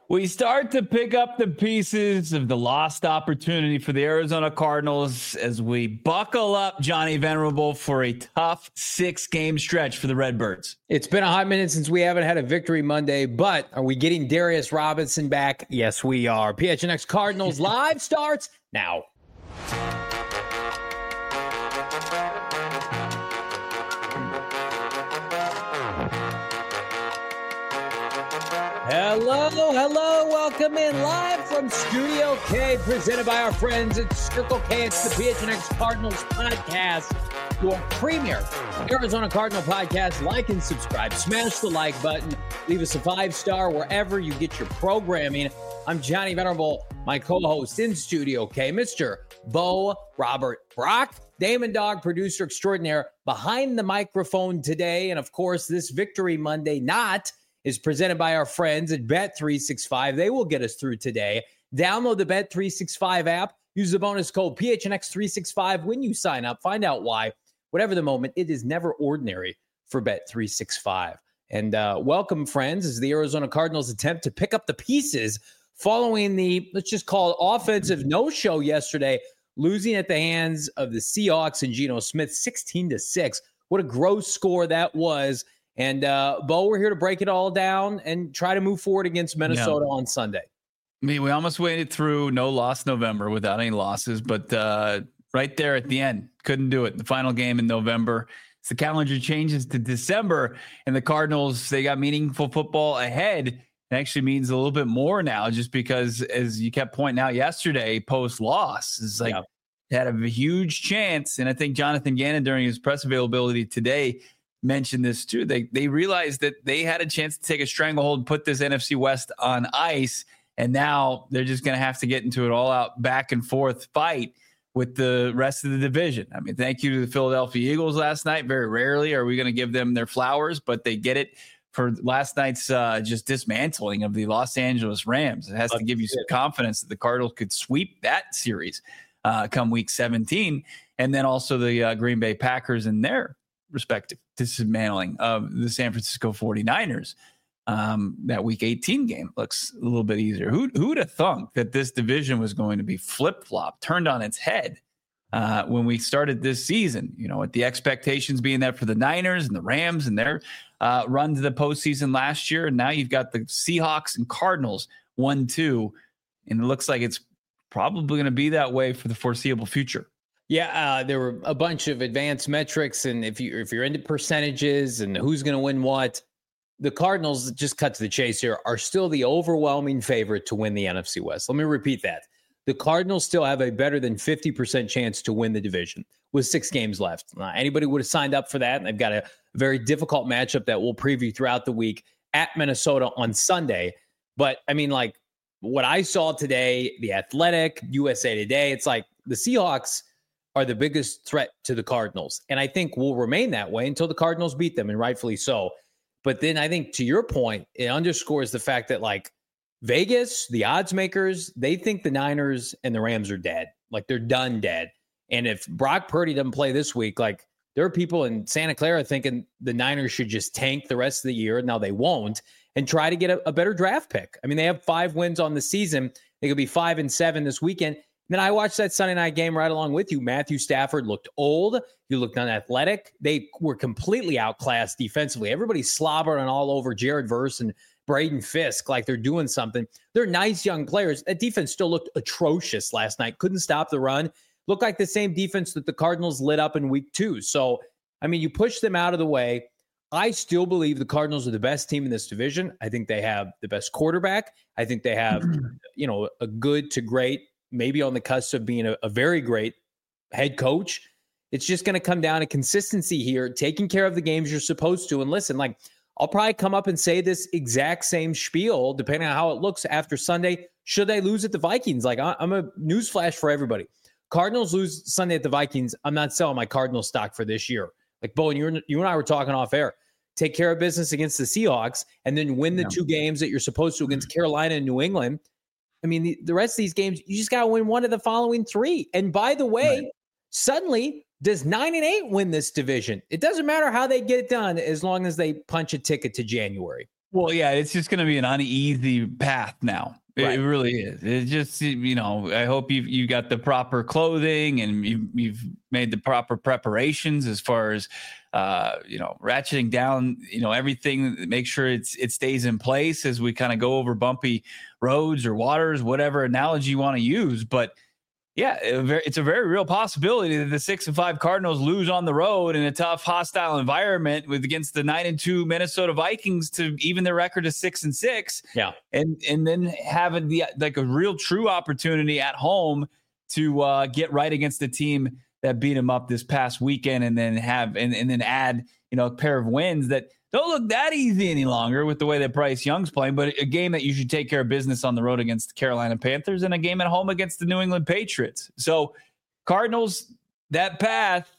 We start to pick up the pieces of the lost opportunity for the Arizona Cardinals as we buckle up, Johnny Venerable, for a tough 6-game stretch for the Redbirds. It's been a hot minute since we haven't had a victory Monday, but are we getting Darius Robinson back? Yes, we are. PHNX Cardinals Live starts now. Hello, welcome in live from Studio K, presented by our friends at Circle K. It's the PHNX Cardinals podcast, your premier Arizona Cardinal podcast. Like and subscribe, smash the like button, leave us a 5-star wherever you get your programming. I'm Johnny Venerable, my co-host in Studio K, Mr. Bo Robert Brock, Damon Dog, producer extraordinaire, behind the microphone today. And of course, this Victory Monday is presented by our friends at Bet365. They will get us through today. Download the Bet365 app. Use the bonus code PHNX365 when you sign up. Find out why. Whatever the moment, it is never ordinary for Bet365. And welcome, friends, as the Arizona Cardinals attempt to pick up the pieces following the, let's just call it, offensive no-show yesterday, losing at the hands of the Seahawks and Geno Smith 16-6. What a gross score that was. And, Bo, we're here to break it all down and try to move forward against Minnesota on Sunday. I mean, we almost waited through no loss November without any losses, but right there at the end, couldn't do it. The final game in November. As the calendar changes to December, and the Cardinals, they got meaningful football ahead. It actually means a little bit more now, just because, as you kept pointing out yesterday, post-loss, it's like had a huge chance. And I think Jonathan Gannon, during his press availability today, mentioned this too. They realized that they had a chance to take a stranglehold and put this NFC West on ice, and now they're just going to have to get into an all-out back and forth fight with the rest of the division. I mean, thank you to the Philadelphia Eagles last night. Very rarely are we going to give them their flowers, but they get it for last night's just dismantling of the Los Angeles Rams. It has to give you some confidence that the Cardinals could sweep that series come week 17, and then also the Green Bay Packers and their respective dismantling of the San Francisco 49ers. That week 18 game looks a little bit easier. Who'd have thunk that this division was going to be flip-flop, turned on its head when we started this season? You know, with the expectations being that for the Niners and the Rams and their run to the postseason last year, and now you've got the Seahawks and Cardinals 1-2, and it looks like it's probably going to be that way for the foreseeable future. Yeah, there were a bunch of advanced metrics, and if you're into percentages and who's going to win what, the Cardinals, just cut to the chase here, are still the overwhelming favorite to win the NFC West. Let me repeat that. The Cardinals still have a better than 50% chance to win the division with 6 games left. Anybody would have signed up for that, and they've got a very difficult matchup that we'll preview throughout the week at Minnesota on Sunday. But, I mean, like, what I saw today, The Athletic, USA Today, it's like the Seahawks are the biggest threat to the Cardinals. And I think will remain that way until the Cardinals beat them, and rightfully so. But then I think, to your point, it underscores the fact that, like, Vegas, the odds makers, they think the Niners and the Rams are dead. Like, they're done dead. And if Brock Purdy doesn't play this week, like, there are people in Santa Clara thinking the Niners should just tank the rest of the year. Now they won't, and try to get a better draft pick. I mean, they have 5 wins on the season. They could be 5-7 this weekend. Then I watched that Sunday night game right along with you. Matthew Stafford looked old. He looked unathletic. They were completely outclassed defensively. Everybody's slobbering all over Jared Verse and Braden Fisk like they're doing something. They're nice young players. That defense still looked atrocious last night. Couldn't stop the run. Looked like the same defense that the Cardinals lit up in week 2. So, I mean, you push them out of the way. I still believe the Cardinals are the best team in this division. I think they have the best quarterback. I think they have, a good to great, maybe on the cusp of being a very great head coach. It's just going to come down to consistency here, taking care of the games you're supposed to. And listen, like, I'll probably come up and say this exact same spiel, depending on how it looks after Sunday, should they lose at the Vikings. Like, I'm a newsflash for everybody. Cardinals lose Sunday at the Vikings, I'm not selling my Cardinal stock for this year. Like, Bo, and you and I were talking off air. Take care of business against the Seahawks and then win the 2 games that you're supposed to against Carolina and New England. I mean, the rest of these games, you just got to win one of the following 3. And by the way, suddenly, does 9-8 win this division? It doesn't matter how they get it done as long as they punch a ticket to January. Well, yeah, it's just going to be an uneasy path now. It really is. It's just, I hope you got the proper clothing and you've made the proper preparations as far as, ratcheting down, everything. Make sure it stays in place as we kind of go over bumpy roads or waters, whatever analogy you want to use. But yeah, it's a very real possibility that the 6-5 Cardinals lose on the road in a tough, hostile environment against the 9-2 Minnesota Vikings to even their record of 6-6. Yeah, and then having a real true opportunity at home to get right against the team that beat them up this past weekend, and then then add a pair of wins that don't look that easy any longer with the way that Bryce Young's playing, but a game that you should take care of business on the road against the Carolina Panthers and a game at home against the New England Patriots. So Cardinals, that path,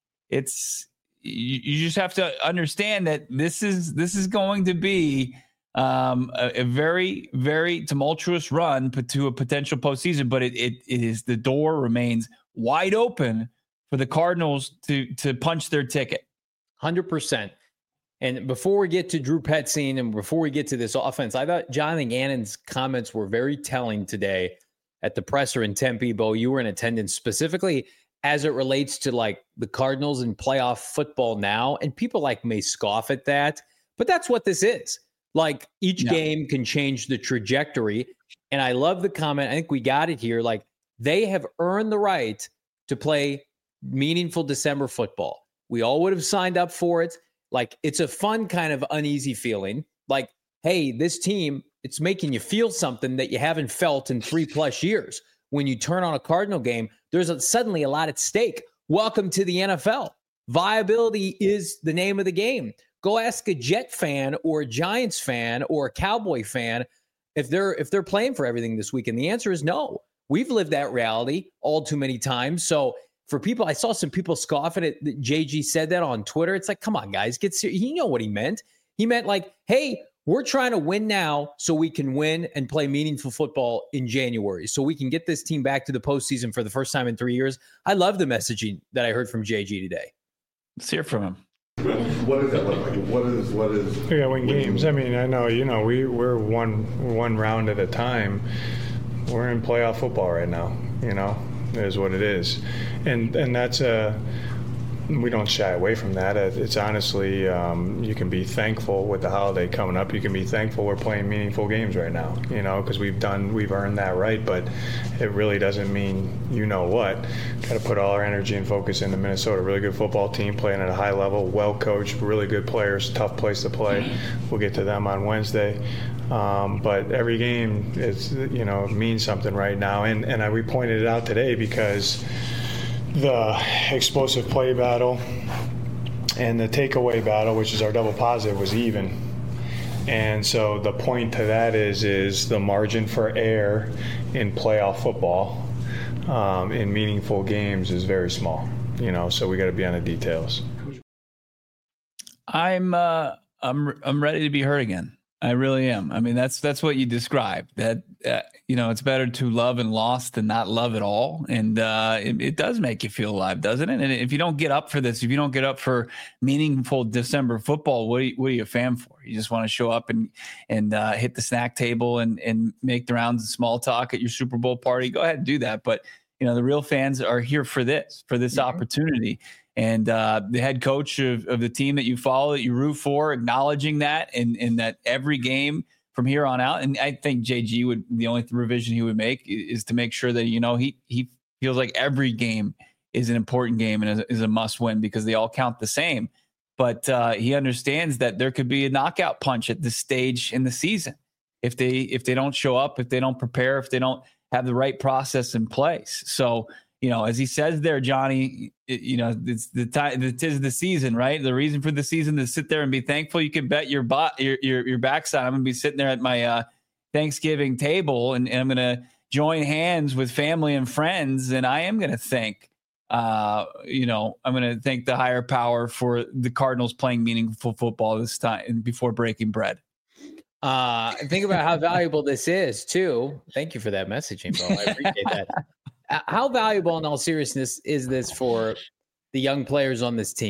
you just have to understand that this is going to be a very, very tumultuous run to a potential postseason, but the door remains wide open for the Cardinals to punch their ticket. 100%. And before we get to Drew Petzing and before we get to this offense, I thought Jonathan Gannon's comments were very telling today at the presser in Tempe. Bo, you were in attendance, specifically as it relates to like the Cardinals and playoff football now. And people may scoff at that, but that's what this is. Like each game can change the trajectory. And I love the comment. I think we got it here. Like they have earned the right to play meaningful December football. We all would have signed up for it. Like, it's a fun kind of uneasy feeling. Like, hey, this team, it's making you feel something that you haven't felt in 3+ years. When you turn on a Cardinal game, there's suddenly a lot at stake. Welcome to the NFL. Viability is the name of the game. Go ask a Jet fan or a Giants fan or a Cowboy fan if they're playing for everything this weekend. The answer is no. We've lived that reality all too many times. So for people, I saw some people scoff at it. JG said that on Twitter. It's like, come on, guys, get serious. He know what he meant. He meant like, hey, we're trying to win now so we can win and play meaningful football in January, so we can get this team back to the postseason for the first time in 3 years. I love the messaging that I heard from JG today. Let's hear from him. What does that look like? What is? Yeah, win games. I mean, I know, we're one round at a time. We're in playoff football right now. It is what it is, and that's we don't shy away from that. It's honestly, you can be thankful with the holiday coming up. You can be thankful we're playing meaningful games right now, because we've earned that right. But it really doesn't mean what. Got to put all our energy and focus into Minnesota. Really good football team playing at a high level, well coached, really good players, tough place to play. We'll get to them on Wednesday. But every game is, means something right now. And we pointed it out today because the explosive play battle and the takeaway battle, which is our double positive, was even. And so the point to that is the margin for error in playoff football in meaningful games is very small, so we got to be on the details. I'm ready to be hurt again. I really am. I mean, that's what you described. That it's better to love and lost than not love at all. And it does make you feel alive, doesn't it? And if you don't get up for this, if you don't get up for meaningful December football, what are you a fan for? You just want to show up and hit the snack table and make the rounds of small talk at your Super Bowl party. Go ahead and do that. But the real fans are here for this opportunity. And the head coach of the team that you follow, that you root for, acknowledging that and that every game from here on out. And I think JG the only revision he would make is to make sure that, he feels like every game is an important game and is a must win because they all count the same. But he understands that there could be a knockout punch at this stage in the season if they don't show up, if they don't prepare, if they don't have the right process in place. So, as he says there, Johnny, it's the time. It is the season, right? The reason for the season to sit there and be thankful. You can bet your backside. I'm going to be sitting there at my Thanksgiving table, and I'm going to join hands with family and friends, and I am going to thank. I'm going to thank the higher power for the Cardinals playing meaningful football this time before breaking bread. Think about how valuable this is too. Thank you for that messaging, Bo. I appreciate that. How valuable, in all seriousness, is this for the young players on this team?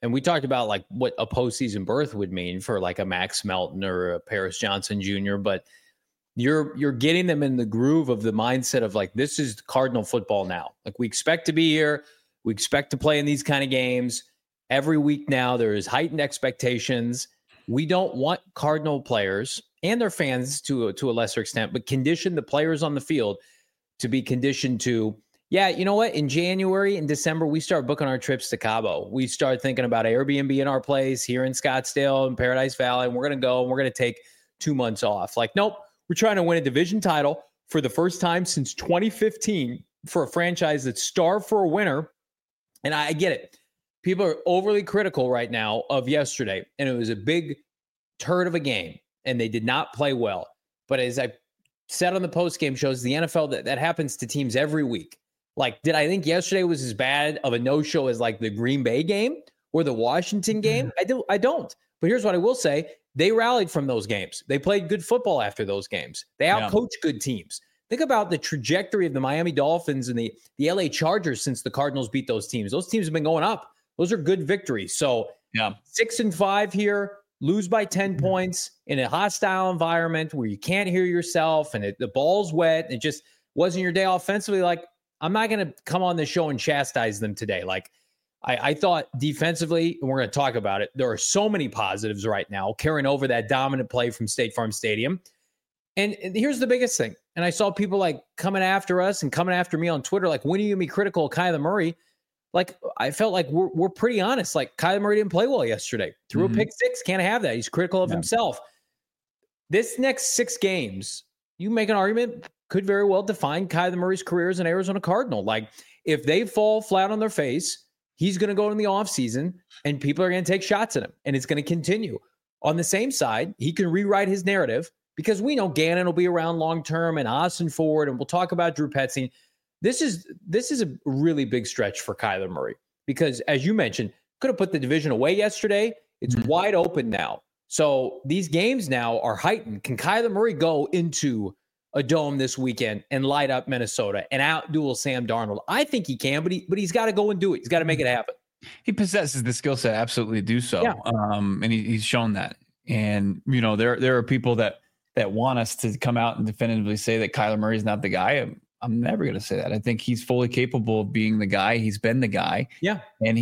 And we talked about like what a postseason berth would mean for like a Max Melton or a Paris Johnson Jr., but you're getting them in the groove of the mindset of like, this is Cardinal football now. Like, we expect to be here. We expect to play in these kind of games every week now. There is heightened expectations. We don't want Cardinal players and their fans to a lesser extent, but condition the players on the field to be conditioned to, yeah, you know what? In January and December, we start booking our trips to Cabo. We start thinking about Airbnb in our place here in Scottsdale and Paradise Valley, and we're going to go and we're going to take 2 months off. Like, nope, we're trying to win a division title for the first time since 2015 for a franchise that's starved for a winner. And I get it. People are overly critical right now of yesterday, and it was a big turd of a game, and they did not play well. But as I said on the postgame shows, the NFL, that happens to teams every week. Like, did I think yesterday was as bad of a no-show as like the Green Bay game or the Washington game? I don't. But here's what I will say. They rallied from those games. They played good football after those games. They outcoached good teams. Think about the trajectory of the Miami Dolphins and the LA Chargers since the Cardinals beat those teams. Those teams have been going up. Those are good victories. So 6-5 here, lose by 10 points in a hostile environment where you can't hear yourself and the ball's wet. It just wasn't your day offensively. Like, I'm not going to come on this show and chastise them today. Like, I thought defensively, and we're going to talk about it, there are so many positives right now carrying over that dominant play from State Farm Stadium. And here's the biggest thing. And I saw people like coming after us and coming after me on Twitter, like, when are you going to be critical of Kyler Murray? Like, I felt like we're pretty honest. Like, Kyler Murray didn't play well yesterday. Threw a pick six. Can't have that. He's critical of himself. This next 6 games, you make an argument, could very well define Kyler Murray's career as an Arizona Cardinal. Like, if they fall flat on their face, he's going to go in the offseason and people are going to take shots at him, and it's going to continue. On the same side, he can rewrite his narrative because we know Gannon will be around long-term and Austin Ford, and we'll talk about Drew Petzing. This is a really big stretch for Kyler Murray because, as you mentioned, could have put the division away yesterday. It's wide open now. So these games now are heightened. Can Kyler Murray go into a dome this weekend and light up Minnesota and outduel Sam Darnold? I think he can, but he's got to go and do it. He's got to make it happen. He possesses the skill set, absolutely do so. Yeah. And he's shown that. And, you know, there are people that want us to come out and definitively say that Kyler Murray is not the guy. I'm never going to say that. I think he's fully capable of being the guy. He's been the guy. Yeah. And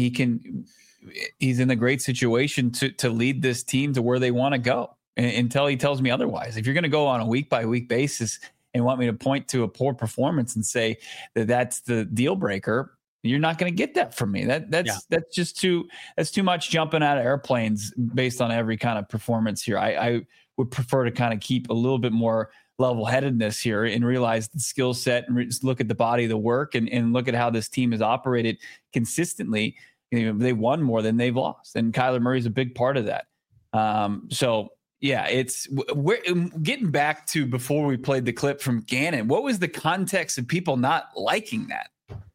he's in a great situation to lead this team to where they want to go until he tells me otherwise. If you're going to go on a week by week basis and want me to point to a poor performance and say that that's the deal breaker, you're not going to get that from me. That's just too much jumping out of airplanes based on every kind of performance here. I would prefer to kind of keep a little bit more level-headedness here and realize the skill set and look at the body of the work and look at how this team has operated consistently. You know, they won more than they've lost, and Kyler Murray's a big part of that. So yeah, we're getting back to before we played the clip from Gannon. What was the context of people not liking that?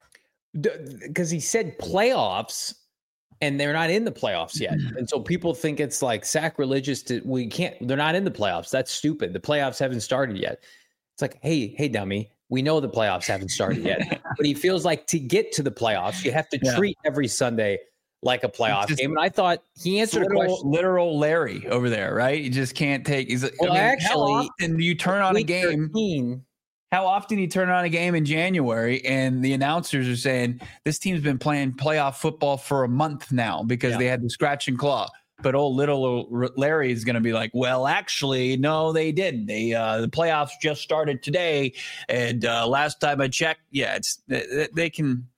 Because he said playoffs, and they're not in the playoffs yet. And so people think it's like sacrilegious they're not in the playoffs. That's stupid. The playoffs haven't started yet. It's like, hey, dummy, we know the playoffs haven't started yet. But he feels like to get to the playoffs, you have to treat every Sunday like a playoff game. And I thought he answered a question. Literal Larry over there, right? You just can't take. Actually, how often do you turn on a game? 13, How often you turn on a game in January and the announcers are saying this team's been playing playoff football for a month now because they had the scratch and claw. But little Larry is going to be like, well, actually, no, they didn't. The playoffs just started today, and last time I checked, they can.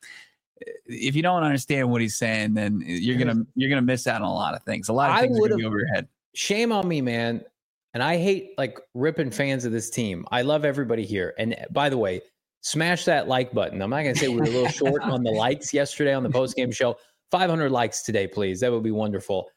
If you don't understand what he's saying, then you're gonna miss out on a lot of things. A lot of things are going to be over your head. Shame on me, man. And I hate like ripping fans of this team. I love everybody here. And by the way, smash that like button. I'm not going to say we were a little short on the likes yesterday on the postgame show. 500 likes today, please. That would be wonderful.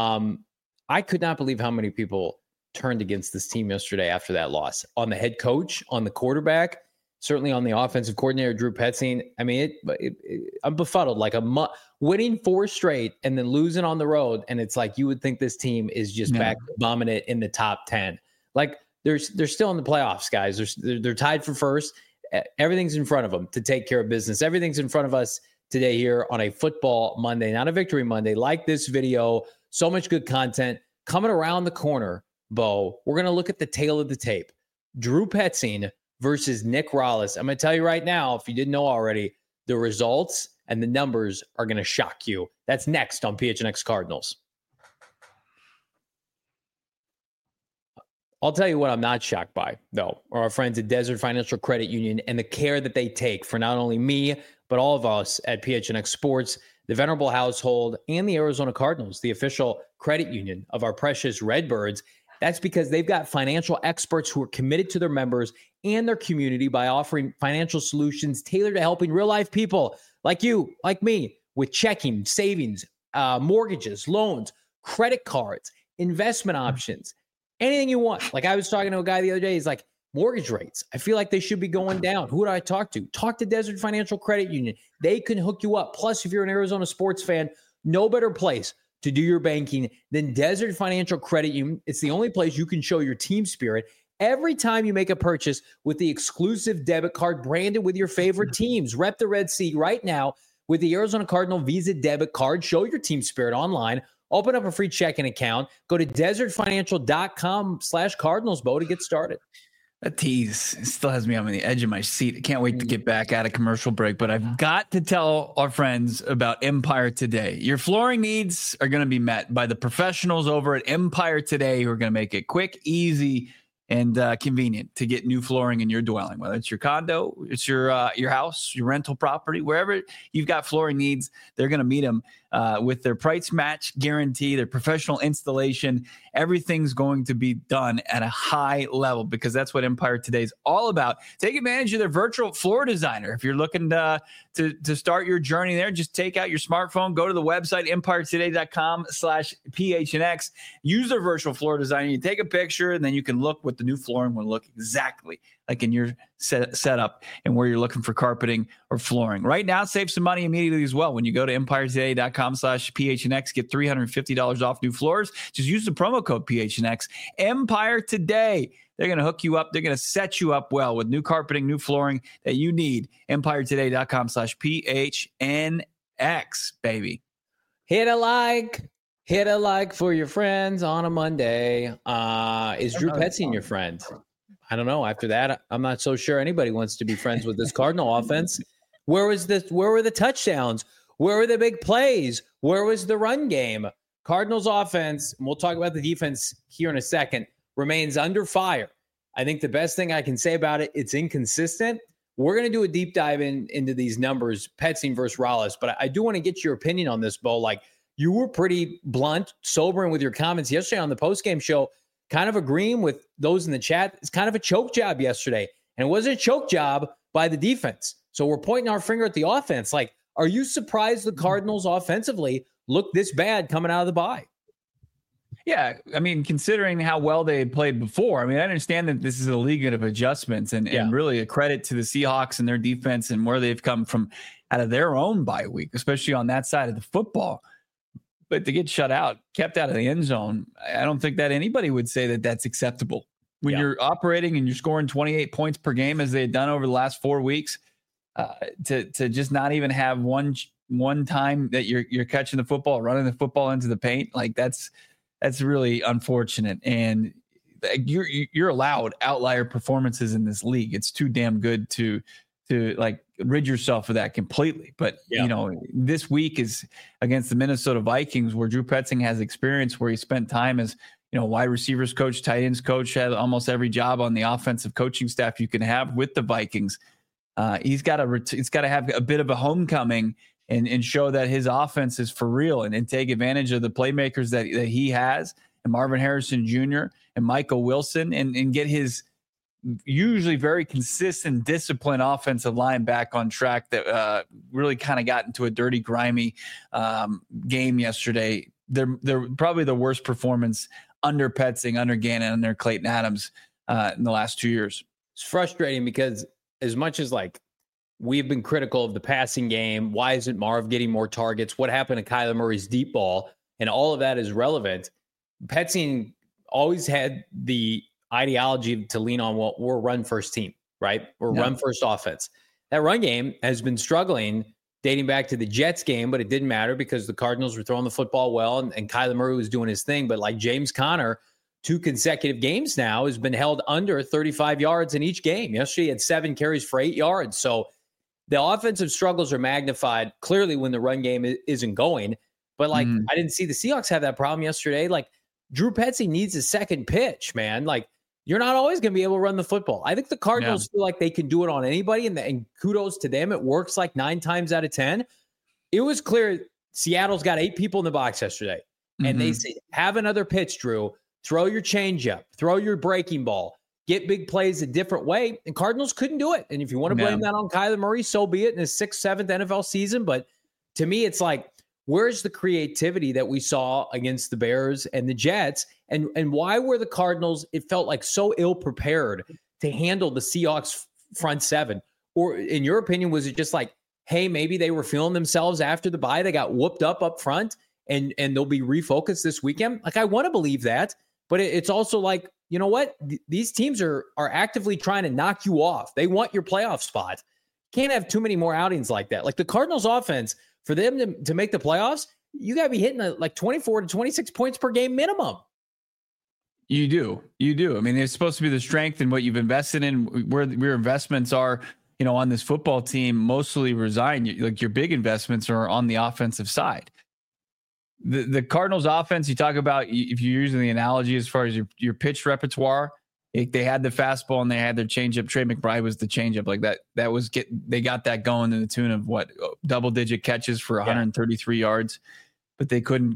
I could not believe how many people turned against this team yesterday after that loss. On the head coach, on the quarterback, certainly on the offensive coordinator, Drew Petzing. I mean, I'm befuddled. Like winning 4 straight and then losing on the road, and it's like you would think this team is just back bombing it in the top 10. Like they're still in the playoffs, guys. They're tied for first. Everything's in front of them to take care of business. Everything's in front of us today here on a Football Monday, not a Victory Monday. Like this video, so much good content coming around the corner, Bo. We're going to look at the tail of the tape. Drew Petzing versus Nick Rallis. I'm going to tell you right now, if you didn't know already, the results and the numbers are going to shock you. That's next on PHNX Cardinals. I'll tell you what I'm not shocked by, though, are our friends at Desert Financial Credit Union and the care that they take for not only me, but all of us at PHNX Sports, the Venerable household, and the Arizona Cardinals, the official credit union of our precious Redbirds. That's because they've got financial experts who are committed to their members and their community by offering financial solutions tailored to helping real-life people like you, like me, with checking, savings, mortgages, loans, credit cards, investment options, anything you want. Like I was talking to a guy the other day, he's like, mortgage rates, I feel like they should be going down. Who do I talk to? Talk to Desert Financial Credit Union. They can hook you up. Plus, if you're an Arizona sports fan, no better place to do your banking than Desert Financial Credit Union. It's the only place you can show your team spirit every time you make a purchase with the exclusive debit card branded with your favorite teams. Rep the Red Sea right now with the Arizona Cardinal Visa debit card. Show your team spirit online. Open up a free checking account. Go to desertfinancial.com/Cardinals, Bo, to get started. That tease still has me on the edge of my seat. I can't wait to get back at a commercial break, but I've got to tell our friends about Empire Today. Your flooring needs are going to be met by the professionals over at Empire Today who are going to make it quick, easy, and convenient to get new flooring in your dwelling, whether it's your condo, it's your house, your rental property, wherever you've got flooring needs, they're going to meet them with their price match guarantee, their professional installation. Everything's going to be done at a high level because that's what Empire Today is all about. Take advantage of their virtual floor designer. If you're looking to start your journey there, just take out your smartphone, go to the website, empiretoday.com/PHNX, use their virtual floor designer. You take a picture and then you can look what the new flooring will look exactly like in your setup and where you're looking for carpeting or flooring. Right now, save some money immediately as well. When you go to empiretoday.com/PHNX, get $350 off new floors. Just use the promo code PHNX. Empire Today. They're going to hook you up. They're going to set you up well with new carpeting, new flooring that you need. empiretoday.com/PHNX, baby. Hit a like for your friends on a Monday. Is Drew Petzing your friend? I don't know. After that, I'm not so sure anybody wants to be friends with this Cardinal offense. Where were the touchdowns? Where were the big plays? Where was the run game? Cardinals offense, and we'll talk about the defense here in a second, remains under fire. I think the best thing I can say about it, it's inconsistent. We're going to do a deep dive into these numbers, Petzing versus Rallis, but I do want to get your opinion on this, Bo. Like, you were pretty blunt, sobering with your comments yesterday on the postgame show, kind of agreeing with those in the chat. It's kind of a choke job yesterday, and it wasn't a choke job by the defense. So we're pointing our finger at the offense. Like, are you surprised the Cardinals offensively look this bad coming out of the bye? Yeah, I mean, considering how well they had played before, I mean, I understand that this is a league of adjustments and really a credit to the Seahawks and their defense and where they've come from out of their own bye week, especially on that side of the football. But to get shut out, kept out of the end zone, I don't think that anybody would say that that's acceptable. When you're operating and you're scoring 28 points per game as they had done over the last 4 weeks, to just not even have one time that you're catching the football, running the football into the paint, like that's really unfortunate. And you're allowed outlier performances in this league. It's too damn good to like rid yourself of that completely. But you know, this week is against the Minnesota Vikings, where Drew Petzing has experience, where he spent time as, you know, wide receivers coach, tight ends coach, had almost every job on the offensive coaching staff you can have with the Vikings. He's got to have a bit of a homecoming and show that his offense is for real and take advantage of the playmakers that he has, and Marvin Harrison Jr. and Michael Wilson, and get his usually very consistent, disciplined offensive line back on track that really kind of got into a dirty, grimy game yesterday. They're probably the worst performance under Petzing, under Gannon, under Clayton Adams in the last 2 years. It's frustrating because as much as like we've been critical of the passing game, why isn't Marv getting more targets? What happened to Kyler Murray's deep ball? And all of that is relevant. Petzing always had the ideology to lean on, we're a run first team, right? We're run first offense. That run game has been struggling dating back to the Jets game, but it didn't matter because the Cardinals were throwing the football well and Kyler Murray was doing his thing. But like James Conner, 2 consecutive games now has been held under 35 yards in each game. Yesterday he had 7 carries for 8 yards. So the offensive struggles are magnified clearly when the run game isn't going. But like, I didn't see the Seahawks have that problem yesterday. Like Drew Petzing needs a second pitch, man. Like you're not always going to be able to run the football. I think the Cardinals feel like they can do it on anybody, and kudos to them. It works like 9 times out of 10. It was clear Seattle's got 8 people in the box yesterday. And they say, have another pitch, Drew. Throw your changeup. Throw your breaking ball. Get big plays a different way. And Cardinals couldn't do it. And if you want to blame that on Kyler Murray, so be it in his 6th, 7th NFL season. But to me, it's like, where's the creativity that we saw against the Bears and the Jets? And why were the Cardinals, it felt like, so ill-prepared to handle the Seahawks front 7? Or in your opinion, was it just like, hey, maybe they were feeling themselves after the bye, they got whooped up front, and they'll be refocused this weekend? Like, I want to believe that, but it's also like, you know what? These teams are actively trying to knock you off. They want your playoff spot. Can't have too many more outings like that. Like the Cardinals offense, for them to make the playoffs, you got to be hitting like 24 to 26 points per game minimum. You do. I mean, it's supposed to be the strength and what you've invested in, where your investments are, on this football team mostly reside. Like your big investments are on the offensive side. The Cardinals offense, you talk about, if you're using the analogy as far as your pitch repertoire, they had the fastball and they had their changeup. Trey McBride was the changeup. Like they got that going to the tune of double-digit catches for 133 yards, but they couldn't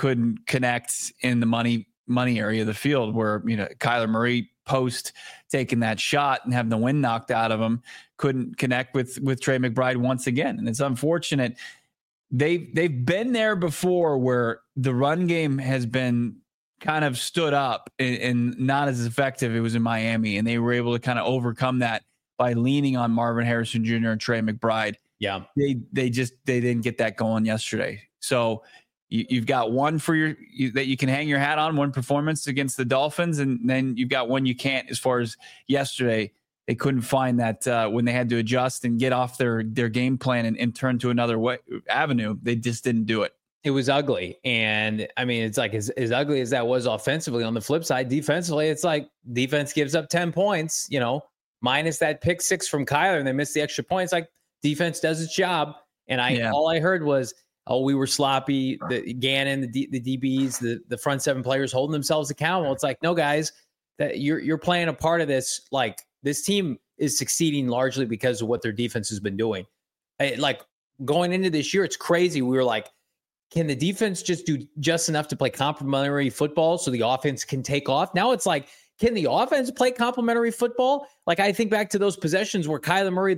connect in the money area of the field where, Kyler Murray post taking that shot and having the wind knocked out of him, couldn't connect with Trey McBride once again. And it's unfortunate. They've been there before where the run game has been kind of stood up and not as effective. It was in Miami, and they were able to kind of overcome that by leaning on Marvin Harrison Jr. and Trey McBride. Yeah. They didn't get that going yesterday. So you've got one that you can hang your hat on, one performance against the Dolphins, and then you've got one you can't. As far as yesterday, they couldn't find that when they had to adjust and get off their game plan and turn to another avenue. They just didn't do it. It was ugly. And I mean, it's like as ugly as that was offensively, on the flip side, defensively, it's like defense gives up 10 points, minus that pick 6 from Kyler, and they missed the extra points. Like defense does its job. And all I heard was, we were sloppy. The Gannon, the DBs, the front 7 players holding themselves accountable. It's like, no, guys, that you're playing a part of this. Like this team is succeeding largely because of what their defense has been doing. Like going into this year, it's crazy. We were like, can the defense just do just enough to play complementary football so the offense can take off? Now it's like, can the offense play complementary football? Like I think back to those possessions where Kyler Murray,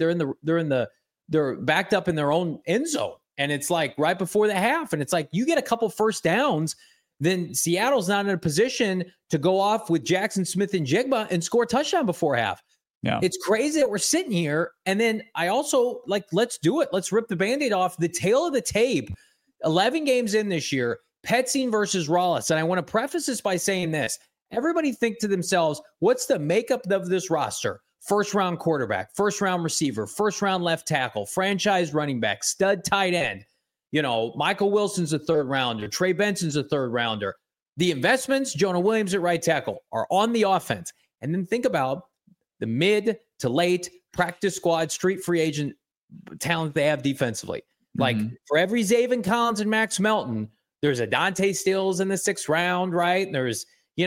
they're backed up in their own end zone. And it's like right before the half. And it's like, you get a couple first downs, then Seattle's not in a position to go off with Jackson Smith and Jigba and score a touchdown before half. Yeah. It's crazy that we're sitting here. And then I also let's do it. Let's rip the Band-Aid off. The tail of the tape, 11 games in this year, Petzing versus Rallis. And I want to preface this by saying this. Everybody think to themselves, what's the makeup of this roster? First round quarterback, first round receiver, first round left tackle, franchise running back, stud tight end. Michael Wilson's a 3rd rounder. Trey Benson's a 3rd rounder. The investments, Jonah Williams at right tackle, are on the offense. And then think about the mid to late practice squad, street free agent talent they have defensively. Like for every Zaven Collins and Max Melton, there's a Dante Stills in the 6th round, right? And there's,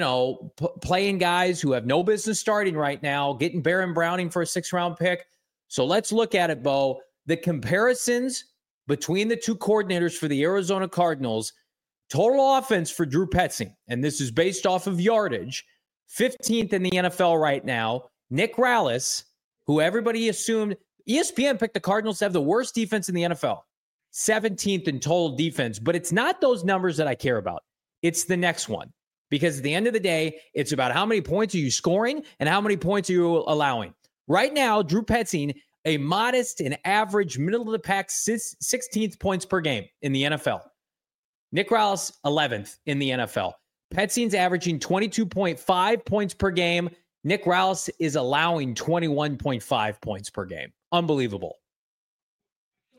playing guys who have no business starting right now, getting Baron Browning for a 6th round pick. So let's look at it, Bo. The comparisons between the 2 coordinators for the Arizona Cardinals, total offense for Drew Petzing, and this is based off of yardage, 15th in the NFL right now. Nick Rallis, who everybody assumed, ESPN picked the Cardinals to have the worst defense in the NFL, 17th in total defense. But it's not those numbers that I care about. It's the next one. Because at the end of the day, it's about how many points are you scoring and how many points are you allowing. Right now, Drew Petzing, a modest and average middle-of-the-pack 16th points per game in the NFL. Nick Rallis, 11th in the NFL. Petzing's averaging 22.5 points per game. Nick Rallis is allowing 21.5 points per game. Unbelievable.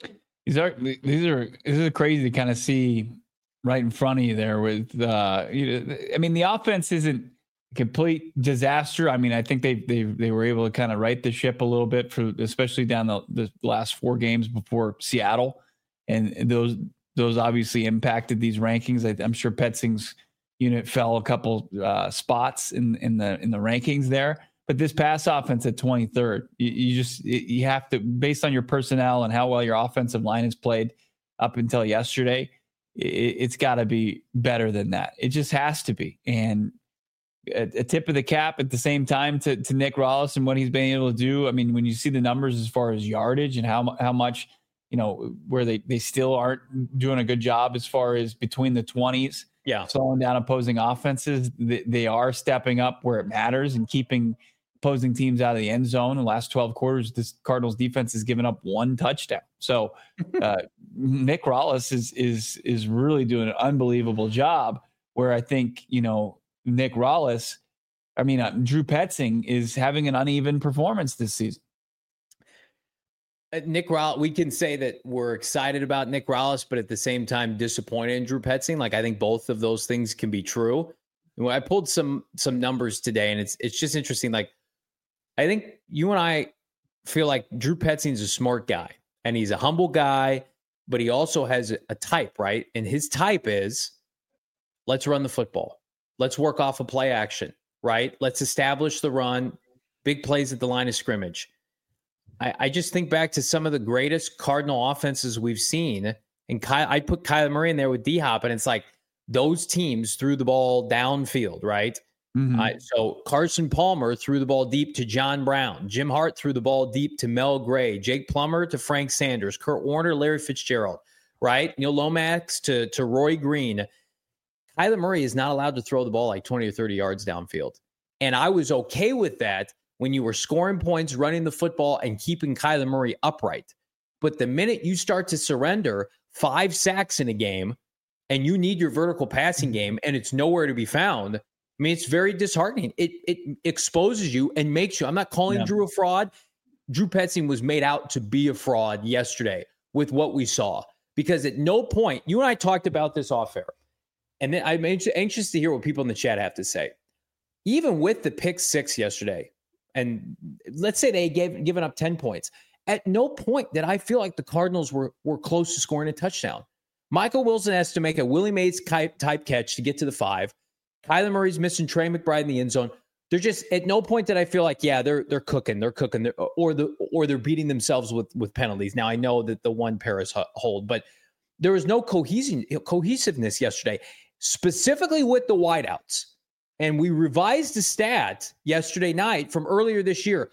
These are crazy to kind of see right in front of you there with I mean, the offense isn't a complete disaster. I mean, I think they were able to kind of right the ship a little bit for especially down the last 4 games before Seattle, and those obviously impacted these rankings. I'm sure Petzing's unit fell a couple spots in the rankings there. But this pass offense at 23rd, you have to, based on your personnel and how well your offensive line has played up until yesterday, it's got to be better than that. It just has to be. And a tip of the cap at the same time to Nick Rallis and what he's been able to do. I mean, when you see the numbers as far as yardage and how much, where they still aren't doing a good job as far as between the 20s, slowing down opposing offenses, they are stepping up where it matters and keeping opposing teams out of the end zone. In the last 12 quarters, this Cardinals defense has given up 1 touchdown. So Nick Rallis is really doing an unbelievable job, where I think, Nick Rallis, Drew Petzing is having an uneven performance this season. Nick Rallis, we can say that we're excited about Nick Rallis, but at the same time disappointed in Drew Petzing. Like, I think both of those things can be true. And I pulled some numbers today, and it's just interesting. Like, I think you and I feel like Drew Petzing's a smart guy, and he's a humble guy, but he also has a type, right? And his type is, let's run the football. Let's work off a play action, right? Let's establish the run, big plays at the line of scrimmage. I just think back to some of the greatest Cardinal offenses we've seen. And I put Kyler Murray in there with D-Hop, and it's like those teams threw the ball downfield, right? Mm-hmm. So Carson Palmer threw the ball deep to John Brown. Jim Hart threw the ball deep to Mel Gray. Jake Plummer to Frank Sanders. Kurt Warner, Larry Fitzgerald, right? Neil Lomax to Roy Green. Kyler Murray is not allowed to throw the ball like 20 or 30 yards downfield. And I was okay with that when you were scoring points, running the football, and keeping Kyler Murray upright. But the minute you start to surrender 5 sacks in a game and you need your vertical passing game and it's nowhere to be found, it's very disheartening. It exposes you and makes you, I'm not calling Drew a fraud. Drew Petzing was made out to be a fraud yesterday with what we saw. Because at no point, you and I talked about this off air, and then I'm anxious to hear what people in the chat have to say. Even with the pick 6 yesterday, and let's say they given up 10 points, at no point did I feel like the Cardinals were close to scoring a touchdown. Michael Wilson has to make a Willie Mays type catch to get to the 5. Kyler Murray's missing Trey McBride in the end zone. They're just, at no point did I feel like, they're cooking, or they're beating themselves with penalties. Now I know that the one Paris hold, but there was no cohesiveness yesterday, specifically with the wideouts. And we revised the stat yesterday night from earlier this year.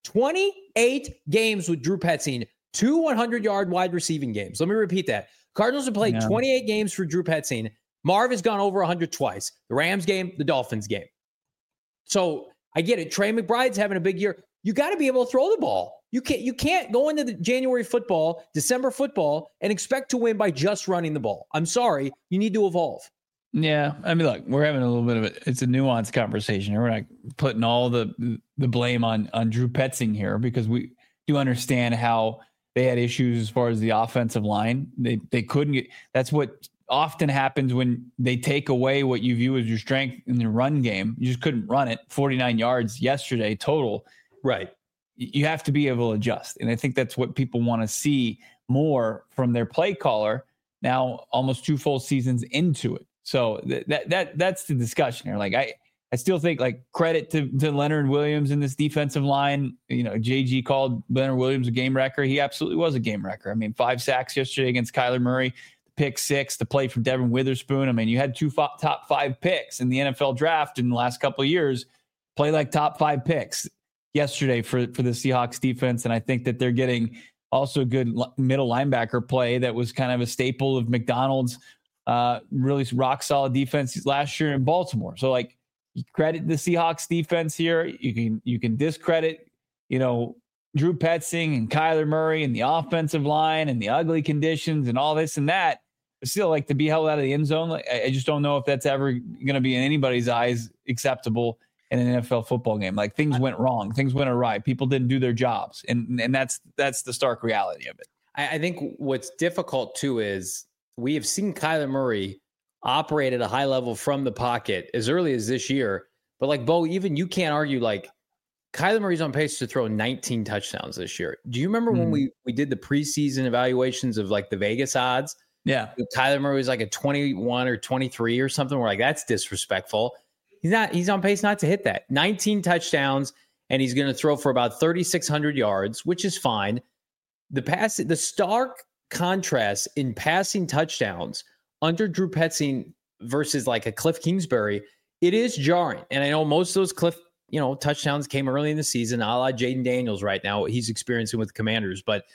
28 games with Drew Petzing, 2 100-yard wide receiving games. Let me repeat that. Cardinals have played 28 games for Drew Petzing. Marv has gone over 100 twice. The Rams game, the Dolphins game. So I get it. Trey McBride's having a big year. You got to be able to throw the ball. You can't go into the January football, December football, and expect to win by just running the ball. I'm sorry. You need to evolve. Yeah. Look, we're having a little bit of it's a nuanced conversation. We're not putting all the blame on Drew Petzing here, because we do understand how they had issues as far as the offensive line. They couldn't get, that's what often happens when they take away what you view as your strength in the run game. You just couldn't run it. 49 yards yesterday total. Right. You have to be able to adjust. And I think that's what people want to see more from their play caller now, almost 2 full seasons into it. So that's the discussion here. Like, I still think, like, credit to Leonard Williams in this defensive line. JG called Leonard Williams a game wrecker. He absolutely was a game wrecker. 5 sacks yesterday against Kyler Murray, pick 6, the play from Devin Witherspoon. You had 2 top 5 picks in the NFL draft in the last couple of years, play like top 5 picks yesterday for the Seahawks defense. And I think that they're getting also good middle linebacker play that was kind of a staple of McDonald's really rock solid defense last year in Baltimore. So, like, you credit the Seahawks defense here. You can discredit, Drew Petzing and Kyler Murray and the offensive line and the ugly conditions and all this and that. But still, like, to be held out of the end zone, I just don't know if that's ever going to be in anybody's eyes acceptable in an NFL football game. Like, things went wrong, things went awry, people didn't do their jobs, and that's the stark reality of it. I think what's difficult too is we have seen Kyler Murray operate at a high level from the pocket as early as this year. But like Bo, even you can't argue like Kyler Murray's on pace to throw 19 touchdowns this year. Do you remember when we did the preseason evaluations of like the Vegas odds? Yeah. Kyler Murray was like a 21 or 23 or something. We're like, that's disrespectful. He's on pace not to hit that. 19 touchdowns, and he's going to throw for about 3,600 yards, which is fine. The stark contrast in passing touchdowns under Drew Petzing versus like a Cliff Kingsbury, it is jarring. And I know most of those Cliff, touchdowns came early in the season, a la Jaden Daniels right now, what he's experiencing with Commanders. But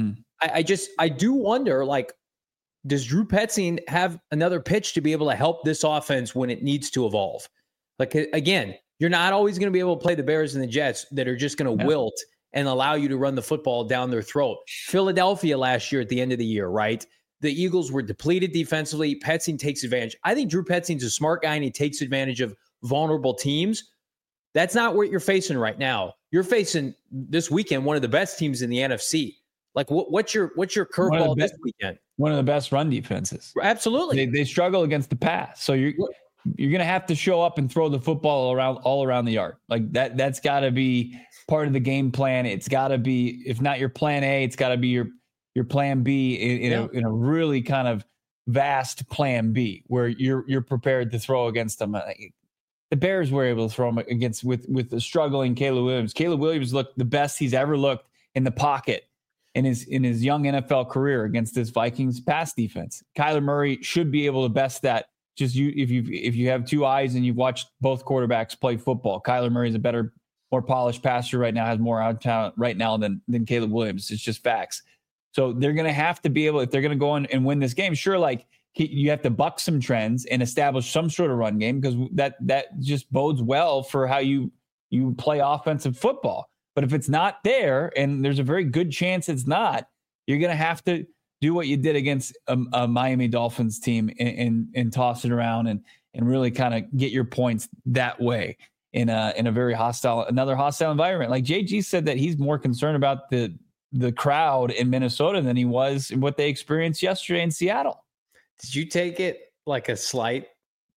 I do wonder, like, does Drew Petzing have another pitch to be able to help this offense when it needs to evolve? Like, again, you're not always going to be able to play the Bears and the Jets that are just going to wilt and allow you to run the football down their throat. Philadelphia last year at the end of the year, right? The Eagles were depleted defensively. Petzing takes advantage. I think Drew Petzing's a smart guy, and he takes advantage of vulnerable teams. That's not what you're facing right now. You're facing this weekend one of the best teams in the NFC. Like, what's your curveball this weekend? One of the best run defenses. Absolutely. They struggle against the pass. So you're going to have to show up and throw the football all around the yard. Like that's got to be part of the game plan. It's got to be, if not your plan A, it's got to be your plan B in a really kind of vast plan B where you're prepared to throw against them. The Bears were able to throw them against with the struggling Caleb Williams. Caleb Williams looked the best he's ever looked in the pocket in his young NFL career against this Vikings pass defense. Kyler Murray should be able to best that. Just if you have two eyes and you've watched both quarterbacks play football, Kyler Murray is a better, more polished passer right now, has more out talent right now than Caleb Williams. It's just facts. So they're going to have to be able, if they're going to go on and win this game, sure, like you have to buck some trends and establish some sort of run game because that just bodes well for how you play offensive football. But if it's not there, and there's a very good chance it's not, you're going to have to do what you did against a Miami Dolphins team and toss it around and really kind of get your points that way in a very hostile environment. Like JG said that he's more concerned about the crowd in Minnesota than he was in what they experienced yesterday in Seattle. Did you take it like a slight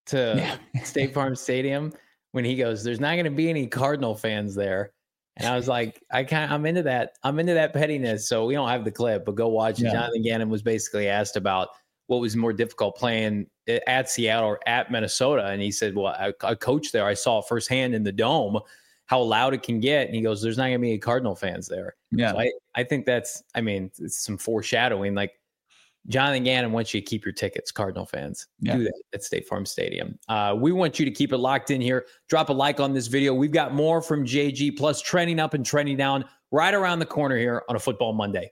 to State Farm Stadium when he goes, "There's not going to be any Cardinal fans there"? And I was like, I'm into that. I'm into that pettiness. So we don't have the clip, but go watch it. Yeah. Jonathan Gannon was basically asked about what was more difficult playing at Seattle or at Minnesota. And he said, well, I coached there. I saw firsthand in the Dome how loud it can get. And he goes, there's not going to be any Cardinal fans there. Yeah. So I think it's some foreshadowing. Like, Jonathan Gannon wants you to keep your tickets, Cardinal fans. Do that at State Farm Stadium. We want you to keep it locked in here. Drop a like on this video. We've got more from JG, plus trending up and trending down right around the corner here on a Football Monday.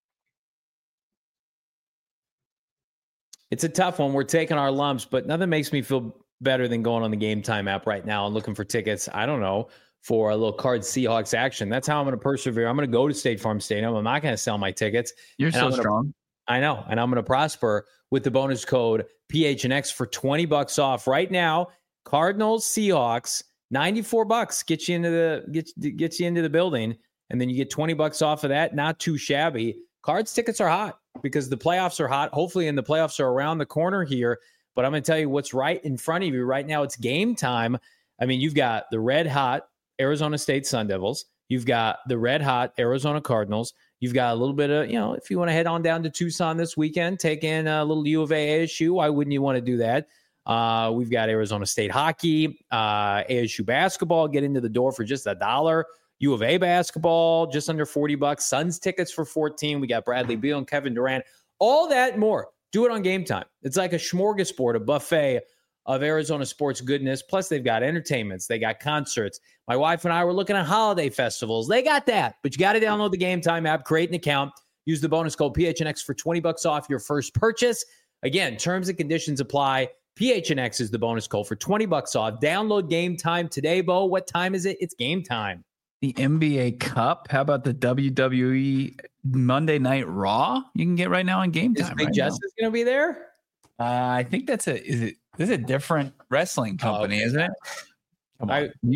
It's a tough one. We're taking our lumps, but nothing makes me feel better than going on the Game Time app right now and looking for tickets, I don't know, for a little Cards Seahawks action. That's how I'm going to persevere. I'm going to go to State Farm Stadium. I'm not going to sell my tickets. You're so strong. I know. And I'm going to prosper with the bonus code PHNX for $20 off right now. Cardinals, Seahawks, $94 gets you into the building. And then you get $20 off of that. Not too shabby. Cards tickets are hot because the playoffs are hot. Hopefully, and the playoffs are around the corner here. But I'm going to tell you what's right in front of you right now. It's game time. I mean, you've got the red hot Arizona State Sun Devils. You've got the red hot Arizona Cardinals. You've got a little bit of, if you want to head on down to Tucson this weekend, take in a little U of A ASU. Why wouldn't you want to do that? We've got Arizona State hockey, ASU basketball, get into the door for just $1. U of A basketball, just under $40. Suns tickets for $14. We got Bradley Beal and Kevin Durant. All that and more. Do it on Game Time. It's like a smorgasbord, a buffet of Arizona sports goodness. Plus, they've got entertainments. They got concerts. My wife and I were looking at holiday festivals. They got that. But you got to download the Game Time app, create an account, use the bonus code PHNX for $20 off your first purchase. Again, terms and conditions apply. PHNX is the bonus code for $20 off. Download Game Time today, Bo. What time is it? It's game time. The NBA Cup. How about the WWE Monday Night Raw? You can get right now on Game Time. Is Big Justice going to be there? I think this is a different wrestling company, isn't it? Come on. You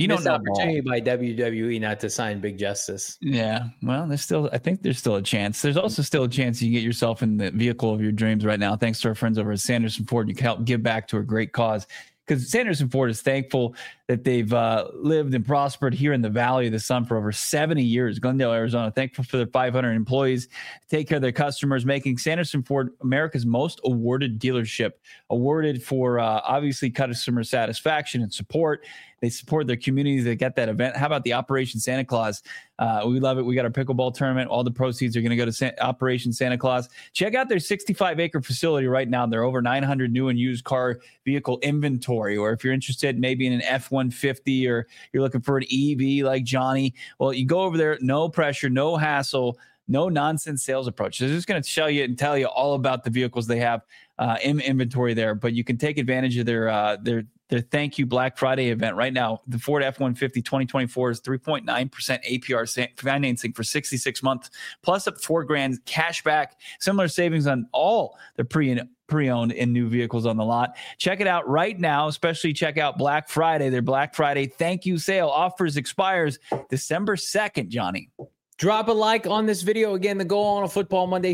You don't Missed know opportunity ball. by WWE not to sign Big Justice. Yeah, well, I think there's still a chance. There's also still a chance you get yourself in the vehicle of your dreams right now. Thanks to our friends over at Sanderson Ford. You can help give back to a great cause, because Sanderson Ford is thankful that they've lived and prospered here in the Valley of the Sun for over 70 years. Glendale, Arizona, thankful for their 500 employees, take care of their customers, making Sanderson Ford America's most awarded dealership, awarded for obviously customer satisfaction and support. They support their communities. They get that event. How about the Operation Santa Claus? We love it. We got our pickleball tournament. All the proceeds are going to go to Operation Santa Claus. Check out their 65-acre facility right now. They're over 900 new and used car vehicle inventory. Or if you're interested maybe in an F-150 or you're looking for an EV like Johnny, well, you go over there. No pressure, no hassle, no nonsense sales approach. They're just going to show you and tell you all about the vehicles they have in inventory there. But you can take advantage of their Thank You Black Friday event right now. The Ford F-150 2024 is 3.9% APR financing for 66 months, plus up $4,000 cash back. Similar savings on all the pre-owned and new vehicles on the lot. Check it out right now. Especially check out Black Friday. Their Black Friday thank you sale offers expires December 2nd, Johnny. Drop a like on this video. Again, the goal on a Football Monday,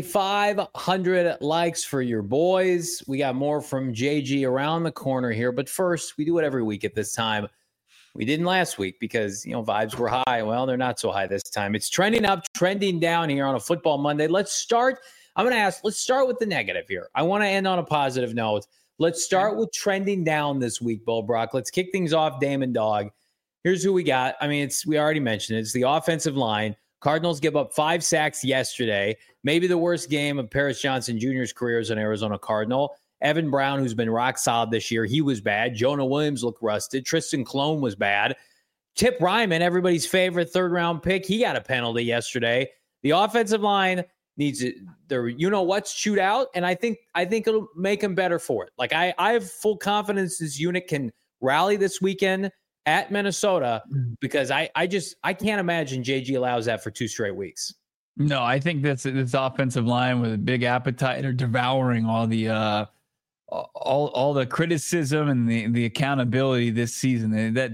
500 likes for your boys. We got more from JG around the corner here. But first, we do it every week at this time. We didn't last week because, vibes were high. Well, they're not so high this time. It's trending up, trending down here on a Football Monday. Let's start with the negative here. I want to end on a positive note. Let's start with trending down this week, Bo Brock. Let's kick things off, Damon Dog. Here's who we got. We already mentioned it. It's the offensive line. Cardinals give up 5 sacks yesterday. Maybe the worst game of Paris Johnson Jr.'s career as an Arizona Cardinal. Evan Brown, who's been rock solid this year, he was bad. Jonah Williams looked rusted. Tristan Clone was bad. Tip Ryman, everybody's favorite third-round pick, he got a penalty yesterday. The offensive line needs their chewed out, and I think it'll make them better for it. Like I have full confidence this unit can rally this weekend at Minnesota, because I can't imagine JG allows that for 2 straight weeks. No, I think this offensive line with a big appetite are devouring all the criticism and the accountability this season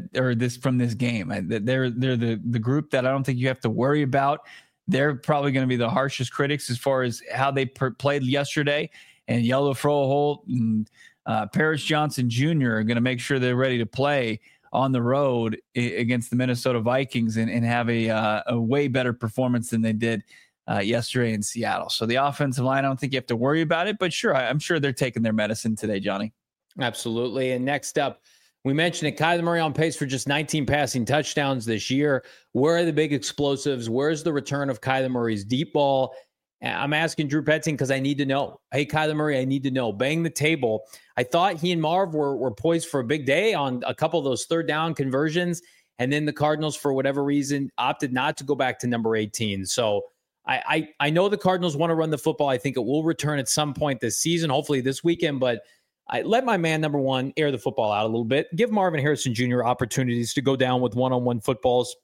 from this game. They're the group that I don't think you have to worry about. They're probably going to be the harshest critics as far as how they played yesterday. And Yellow Froholt and Paris Johnson Jr. are going to make sure they're ready to play on the road against the Minnesota Vikings and have a way better performance than they did yesterday in Seattle. So the offensive line, I don't think you have to worry about it, but sure, I'm sure they're taking their medicine today, Johnny. Absolutely. And next up, we mentioned it, Kyler Murray on pace for just 19 passing touchdowns this year. Where are the big explosives? Where's the return of Kyler Murray's deep ball? I'm asking Drew Petzing because I need to know. Hey, Kyler Murray, I need to know. Bang the table. I thought he and Marv were poised for a big day on a couple of those third down conversions, and then the Cardinals, for whatever reason, opted not to go back to number 18. So I know the Cardinals want to run the football. I think it will return at some point this season, hopefully this weekend, but I let my man, number one, air the football out a little bit. Give Marvin Harrison Jr. opportunities to go down with one-on-one footballs.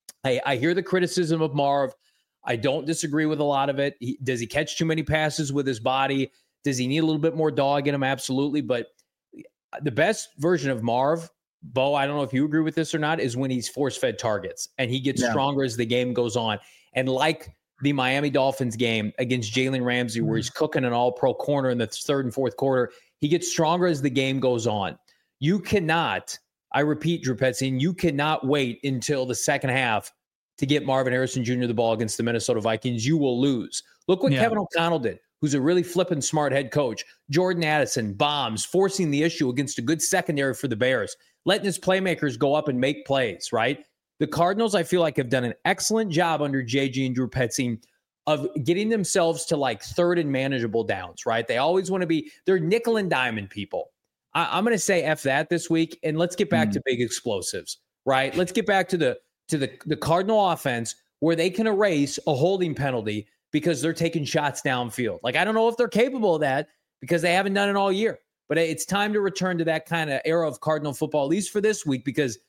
I hear the criticism of Marv. I don't disagree with a lot of it. Does he catch too many passes with his body? Does he need a little bit more dog in him? Absolutely. But the best version of Marv, Bo, I don't know if you agree with this or not, is when he's force-fed targets and he gets stronger as the game goes on. And like the Miami Dolphins game against Jalen Ramsey, where he's cooking an all-pro corner in the third and fourth quarter, he gets stronger as the game goes on. You cannot, I repeat, Drew Petzing, you cannot wait until the second half to get Marvin Harrison Jr. the ball against the Minnesota Vikings. You will lose. Look what Kevin O'Connell did, who's a really flippin' smart head coach. Jordan Addison, bombs, forcing the issue against a good secondary for the Bears, letting his playmakers go up and make plays, right? The Cardinals, I feel like, have done an excellent job under JG and Drew Petzing of getting themselves to like third and manageable downs, right? They always want to be, they're nickel and diamond people. I'm going to say F that this week, and let's get back to big explosives, right? Let's get back to the Cardinal offense where they can erase a holding penalty because they're taking shots downfield. Like, I don't know if they're capable of that because they haven't done it all year, but it's time to return to that kind of era of Cardinal football, at least for this week, because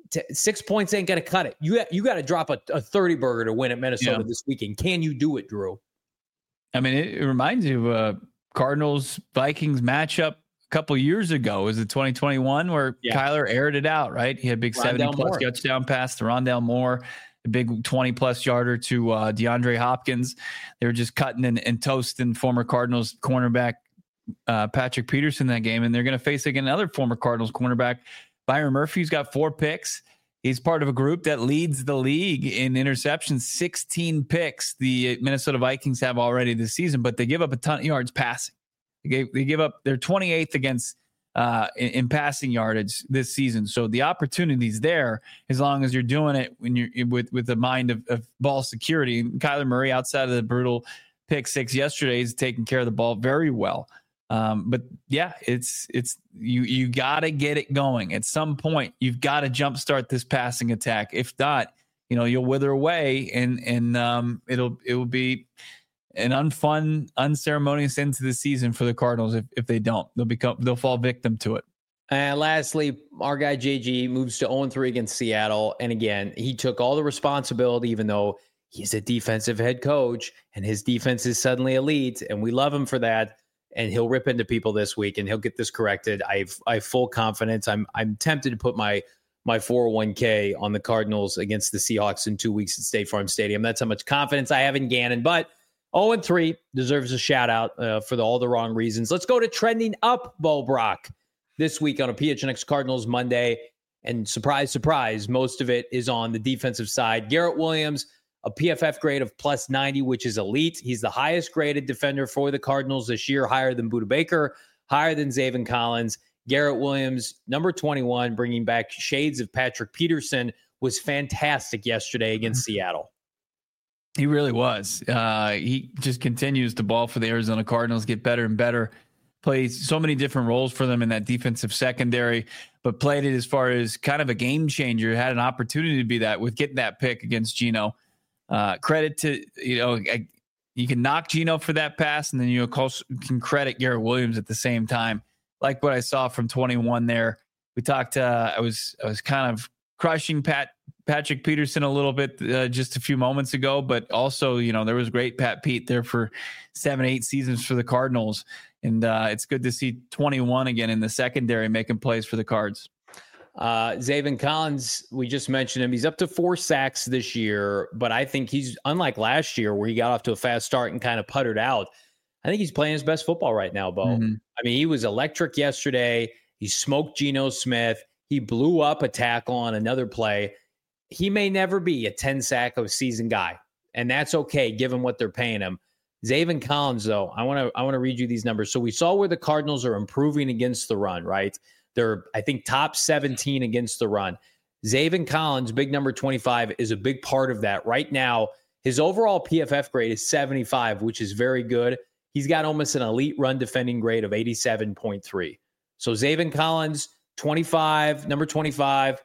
6 points ain't going to cut it. You got to drop a 30 burger to win at Minnesota this weekend. Can you do it, Drew? I mean, it reminds you of Cardinals Vikings matchup couple years ago. Was it 2021 where Kyler aired it out, right? He had a big 70-plus touchdown pass to Rondale Moore, a big 20-plus yarder to DeAndre Hopkins. They were just cutting and toasting former Cardinals cornerback Patrick Peterson that game, and they're going to face again another former Cardinals cornerback, Byron Murphy, who's got 4 picks. He's part of a group that leads the league in interceptions, 16 picks the Minnesota Vikings have already this season, but they give up a ton of yards passing. They give up, they're 28th against in passing yardage this season. So the opportunity's there as long as you're doing it when you're with the mind of ball security. And Kyler Murray, outside of the brutal pick 6 yesterday, is taking care of the ball very well. But yeah, it's you got to get it going at some point. You've got to jumpstart this passing attack. If not, you'll wither away, and it will be an unfun, unceremonious end to the season for the Cardinals. If they don't, they'll fall victim to it. And lastly, our guy JG moves to 0-3 against Seattle, and again, he took all the responsibility, even though he's a defensive head coach and his defense is suddenly elite, and we love him for that. And he'll rip into people this week, and he'll get this corrected. I have full confidence. I'm tempted to put my 401k on the Cardinals against the Seahawks in 2 weeks at State Farm Stadium. That's how much confidence I have in Gannon. But 0-3 deserves a shout out for all the wrong reasons. Let's go to trending up, Bo Brock, this week on a PHNX Cardinals Monday. And surprise, surprise, most of it is on the defensive side. Garrett Williams, a PFF grade of plus 90, which is elite. He's the highest graded defender for the Cardinals this year, higher than Budda Baker, higher than Zaven Collins. Garrett Williams, number 21, bringing back shades of Patrick Peterson, was fantastic yesterday against Seattle. He really was. He just continues to ball for the Arizona Cardinals, get better and better, plays so many different roles for them in that defensive secondary, but played it as far as kind of a game changer. Had an opportunity to be that with getting that pick against Geno. Credit to, you can knock Geno for that pass, and then you can credit Garrett Williams at the same time. Like what I saw from 21 there. We talked, I was kind of crushing Patrick Peterson a little bit just a few moments ago, but also, there was great Pat Pete there for 7-8 seasons for the Cardinals. And it's good to see 21 again in the secondary making plays for the Cards. Zaven Collins, we just mentioned him. He's up to 4 sacks this year, but I think he's unlike last year where he got off to a fast start and kind of puttered out. I think he's playing his best football right now, Bo. Mm-hmm. I mean, he was electric yesterday. He smoked Geno Smith. He blew up a tackle on another play. He may never be a 10 sack of a season guy, and that's okay given what they're paying him. Zaven Collins, though, I want to read you these numbers. So we saw where the Cardinals are improving against the run, right? They're, I think, top 17 against the run. Zaven Collins, big number 25, is a big part of that. Right now, his overall PFF grade is 75, which is very good. He's got almost an elite run defending grade of 87.3. So Zaven Collins, 25, number 25,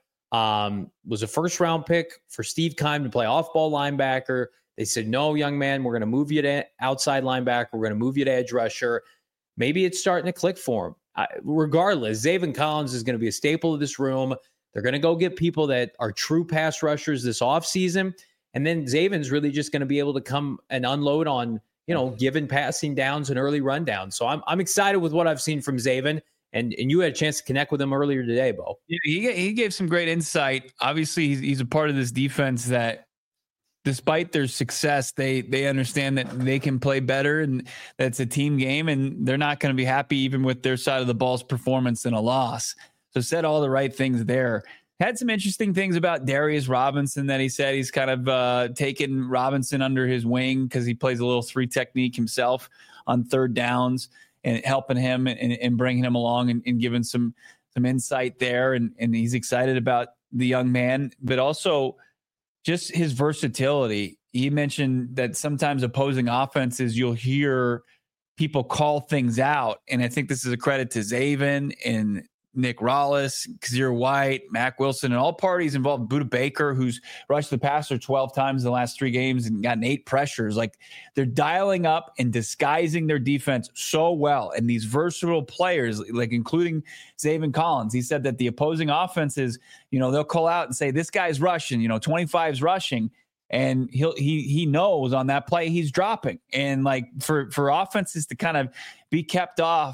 was a first-round pick for Steve Keim to play off-ball linebacker. They said, no, young man, we're going to move you to outside linebacker. We're going to move you to edge rusher. Maybe it's starting to click for him. Regardless, Zaven Collins is going to be a staple of this room. They're going to go get people that are true pass rushers this offseason. And then Zaven's really just going to be able to come and unload on, given passing downs and early rundowns. So I'm excited with what I've seen from Zaven. And you had a chance to connect with him earlier today, Bo. Yeah, he gave some great insight. Obviously, he's a part of this defense that, despite their success, they understand that they can play better, and that's a team game, and they're not going to be happy even with their side of the ball's performance in a loss. So said all the right things there. Had some interesting things about Darius Robinson that he said. He's kind of taken Robinson under his wing because he plays a little 3 technique himself on third downs, and helping him and bringing him along and giving some insight there. And he's excited about the young man, but also just his versatility. He mentioned that sometimes opposing offenses, you'll hear people call things out. And I think this is a credit to Zaven and Nick Rallis, Kazir White, Mac Wilson, and all parties involved. Budda Baker, who's rushed the passer 12 times in the last 3 games and gotten 8 pressures. Like, they're dialing up and disguising their defense so well. And these versatile players, like including Zaven Collins, he said that the opposing offenses, they'll call out and say, this guy's rushing, 25's rushing. And he knows on that play he's dropping. And like for offenses to kind of be kept off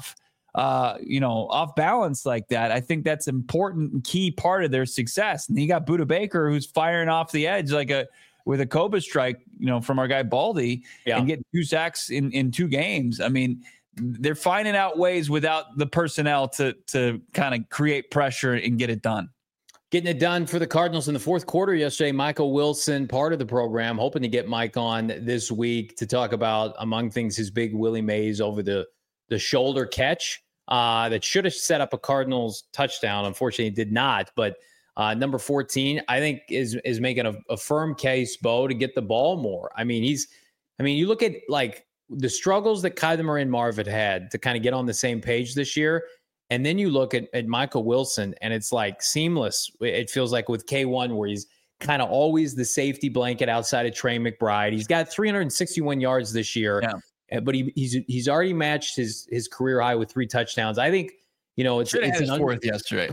off balance like that, I think that's important and key part of their success. And you got Budda Baker, who's firing off the edge with a Cobra strike, from our guy Baldy, and getting 2 sacks in 2 games. I mean, they're finding out ways without the personnel to kind of create pressure and get it done. Getting it done for the Cardinals in the fourth quarter yesterday. Michael Wilson, part of the program, hoping to get Mike on this week to talk about, among things, his big Willie Mays over the shoulder catch that should have set up a Cardinals touchdown. Unfortunately, it did not. But number 14, I think, is making a firm case, Bo, to get the ball more. I mean, you look at like the struggles that Kyler Murray and Marv had to kind of get on the same page this year. And then you look at Michael Wilson, and it's like seamless. It feels like with K1, where he's kind of always the safety blanket outside of Trey McBride. He's got 361 yards this year, but he's already matched his career high with 3 touchdowns. I think, it's his fourth yesterday.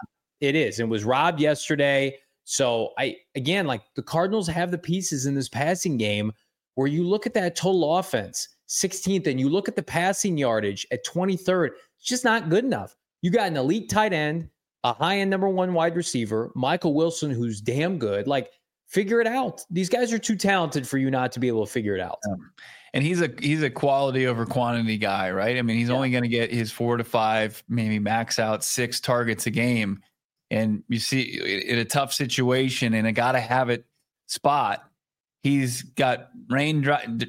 It is. It was robbed yesterday. So the Cardinals have the pieces in this passing game where you look at that total offense, 16th, and you look at the passing yardage at 23rd. It's just not good enough. You got an elite tight end, a high-end number 1 wide receiver, Michael Wilson, who's damn good. Like, figure it out. These guys are too talented for you not to be able to figure it out. And he's a quality over quantity guy, right? I mean, he's only going to get his 4 to 5, maybe max out 6 targets a game. And you see, in a tough situation, in a gotta-have-it spot, he's got rain,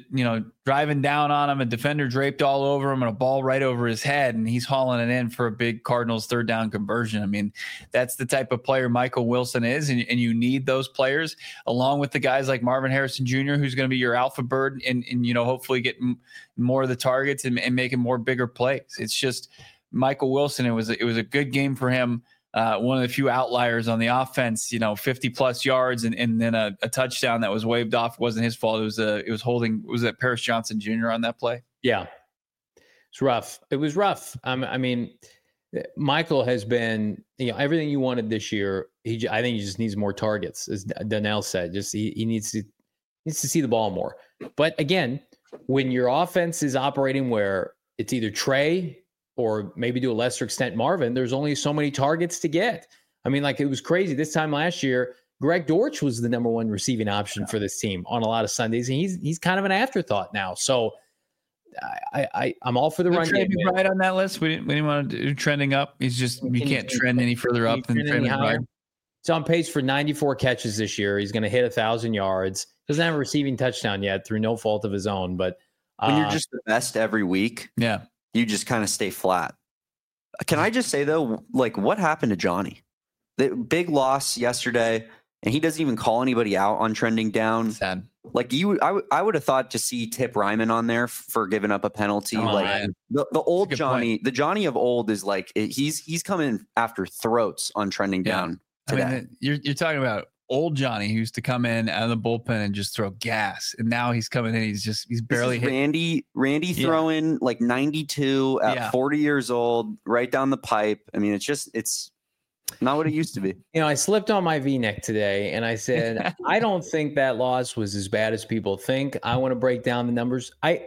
driving down on him, a defender draped all over him, and a ball right over his head, and he's hauling it in for a big Cardinals 3rd down conversion. I mean, that's the type of player Michael Wilson is, and you need those players along with the guys like Marvin Harrison Jr., who's going to be your alpha bird, and hopefully get more of the targets and making more bigger plays. It's just Michael Wilson. It was a good game for him. One of the few outliers on the offense, 50 plus yards and then a touchdown that was waved off. It wasn't his fault. Was that Paris Johnson Jr. on that play? Yeah. It's rough. It was rough. I mean, Michael has been, everything you wanted this year. I think he just needs more targets, as Donnell said. Just he needs to see the ball more. But again, when your offense is operating where it's either Trey or maybe to a lesser extent Marvin, there's only so many targets to get. I mean, it was crazy. This time last year, Greg Dortch was the number 1 receiving option for this team on a lot of Sundays, and he's kind of an afterthought now. So I'm all for the run game. Right on that list. We didn't want to do trending up. He's just you can't trend any further up than trending higher. He's on pace for 94 catches this year. He's going to hit 1,000 yards. Doesn't have a receiving touchdown yet through no fault of his own. But when you're just the best every week, you just kind of stay flat. Can I just say, though, what happened to Johnny? The big loss yesterday, and he doesn't even call anybody out on trending down. Sad. I would have thought to see Tip Ryman on there for giving up a penalty. The old Johnny, the Johnny of old is he's coming after throats on trending down today. I mean, you're talking about old Johnny, who used to come in out of the bullpen and just throw gas, and now he's coming in. He's barely hit. Randy throwing 92 at 40 years old, right down the pipe. I mean, it's not what it used to be. I slipped on my V-neck today, and I said, I don't think that loss was as bad as people think. I want to break down the numbers.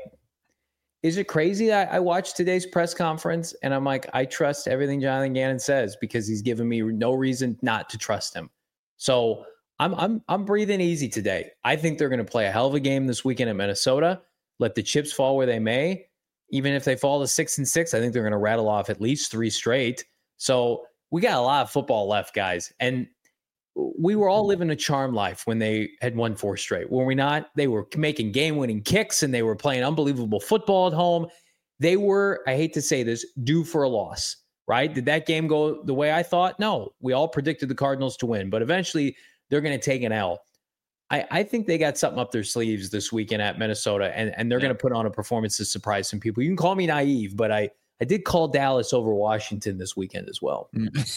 Is it crazy that I watched today's press conference and I'm like, I trust everything Jonathan Gannon says because he's given me no reason not to trust him. So I'm breathing easy today. I think they're going to play a hell of a game this weekend at Minnesota. Let the chips fall where they may. Even if they fall to 6-6, I think they're going to rattle off at least 3 straight. So we got a lot of football left, guys. And we were all living a charmed life when they had won 4 straight. Were we not? They were making game-winning kicks and they were playing unbelievable football at home. They were, I hate to say this, due for a loss. Right? Did that game go the way I thought? No. We all predicted the Cardinals to win, but eventually they're going to take an L. I think they got something up their sleeves this weekend at Minnesota, and they're going to put on a performance to surprise some people. You can call me naive, but I did call Dallas over Washington this weekend as well.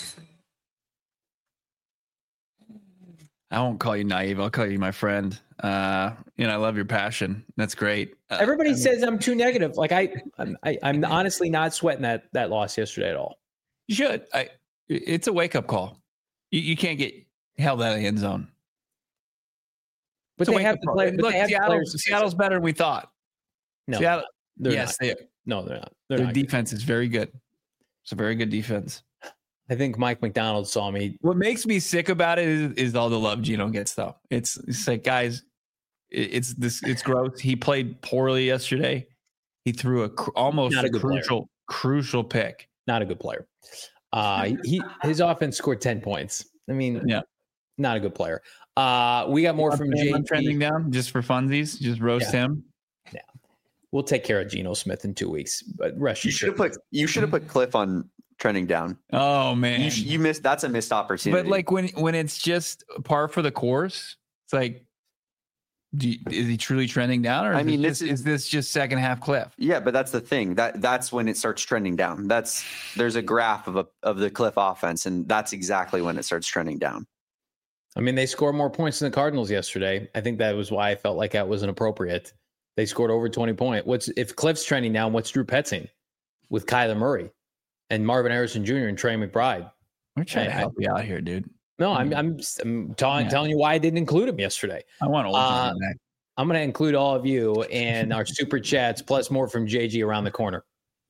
I won't call you naive. I'll call you my friend. I love your passion. That's great. Everybody says I'm too negative. I'm honestly not sweating that loss yesterday at all. You should. It's a wake up call. You can't get held out of the end zone. But they have to play. Look, Seattle's better than we thought. No, Seattle. they're yes, not. they are. No, they're not. Their defense is very good. It's a very good defense. I think Mike McDonald saw me. What makes me sick about it is all the love Geno gets, though. It's like, guys, it's gross. He played poorly yesterday. He threw almost a crucial pick. Not a good player. His offense scored 10 points. I mean, yeah, not a good player. We got more from JP. Trending down just for funsies. Just roast him. Yeah, we'll take care of Geno Smith in 2 weeks. But rest you should have put Cliff on trending down. Oh man, you missed. That's a missed opportunity. But like when it's just par for the course, it's like, is he truly trending down, or is this just second half Cliff? Yeah, but that's the thing. That's when it starts trending down. There's a graph of the Cliff offense, and that's exactly when it starts trending down. I mean, they scored more points than the Cardinals yesterday. I think that was why I felt like that wasn't appropriate. They scored over 20 points. If Cliff's trending down, what's Drew Petzing with Kyler Murray and Marvin Harrison Jr. and Trey McBride? We're trying to help you out here, dude. No, I'm telling you why I didn't include him yesterday. I want to. I'm going to include all of you and our super chats, plus more from JG around the corner.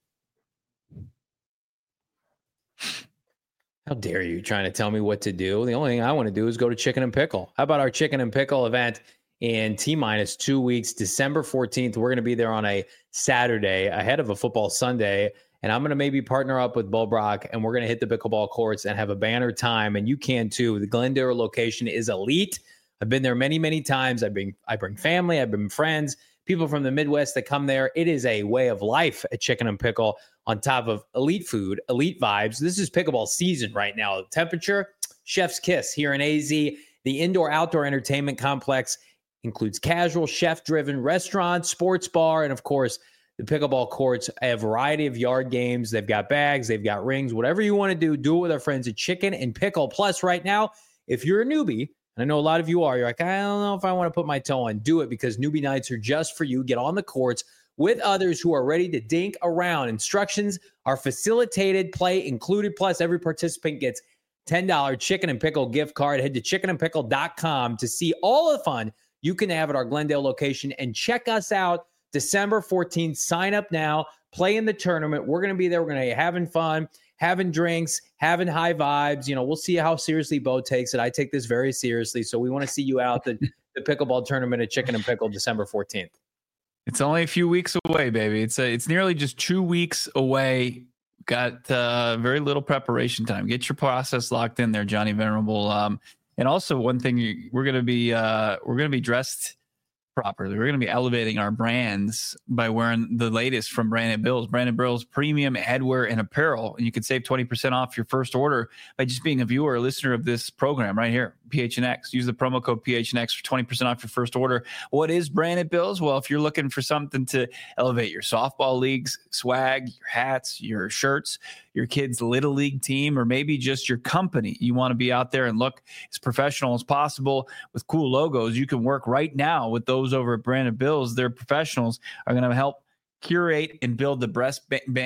How dare you trying to tell me what to do? The only thing I want to do is go to Chicken and Pickle. How about our Chicken and Pickle event in T-minus 2 weeks, December 14th? We're going to be there on a Saturday ahead of a football Sunday. And I'm going to maybe partner up with Bo Brock, and we're going to hit the pickleball courts and have a banner time. And you can too. The Glendale location is elite. I've been there many, many times. I bring family. I bring friends, people from the Midwest that come there. It is a way of life at Chicken and Pickle on top of elite food, elite vibes. This is pickleball season right now. The temperature, chef's kiss here in AZ. The indoor-outdoor entertainment complex includes casual, chef-driven restaurants, sports bar, and of course, the pickleball courts, a variety of yard games. They've got bags, they've got rings, whatever you want to do it with our friends at Chicken and Pickle. Plus, right now, if you're a newbie, and I know a lot of you are, you're like, I don't know if I want to put my toe on. Do it, because newbie nights are just for you. Get on the courts with others who are ready to dink around. Instructions are facilitated, play included. Plus, every participant gets $10 Chicken and Pickle gift card. Head to chickenandpickle.com to see all the fun you can have at our Glendale location, and check us out December 14th. Sign up now. Play in the tournament. We're going to be there. We're going to be having fun, having drinks, having high vibes. You know, we'll see how seriously Bo takes it. I take this very seriously. So we want to see you out the pickleball tournament at Chicken and Pickle December 14th. It's only a few weeks away, baby. It's nearly just 2 weeks away. Got very little preparation time. Get your process locked in there, Johnny Venerable. And also one thing, we're going to be dressed properly. We're going to be elevating our brands by wearing the latest from Branded Bills. Branded Bills premium headwear and apparel. And you can save 20% off your first order by just being a viewer or listener of this program right here, PHNX. Use the promo code PHNX for 20% off your first order. What is Branded Bills? Well, if you're looking for something to elevate your softball leagues, swag, your hats, your shirts, your kid's little league team, or maybe just your company, you want to be out there and look as professional as possible with cool logos, you can work right now with those over at Branded Bills. Their professionals are going to help curate and build the best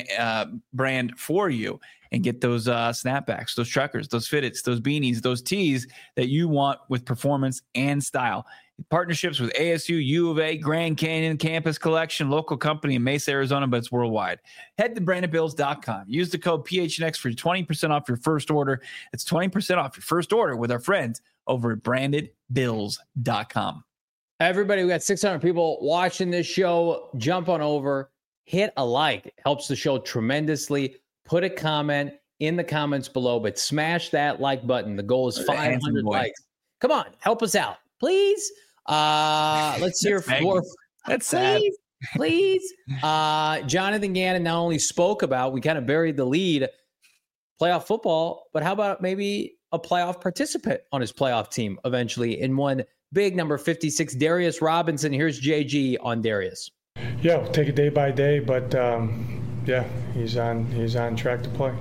brand for you, and get those snapbacks, those truckers, those fitteds, those beanies, those tees that you want with performance and style. Partnerships with ASU, U of A, Grand Canyon Campus Collection, local company in Mesa, Arizona, but it's worldwide. Head to brandedbills.com. Use the code PHNX for 20% off your first order. It's 20% off your first order with our friends over at brandedbills.com. Everybody, we got 600 people watching this show. Jump on over, hit a like. It helps the show tremendously. Put a comment in the comments below, but smash that like button. The goal is 500 likes. Come on, help us out, please. Let's hear for. That's sad. Please. Jonathan Gannon not only spoke about, we kind of buried the lead, playoff football, but how about maybe a playoff participant on his playoff team eventually in one big number 56, Darius Robinson. Here's JG on Darius. Yeah, we'll take it day by day, but yeah, he's on track to play.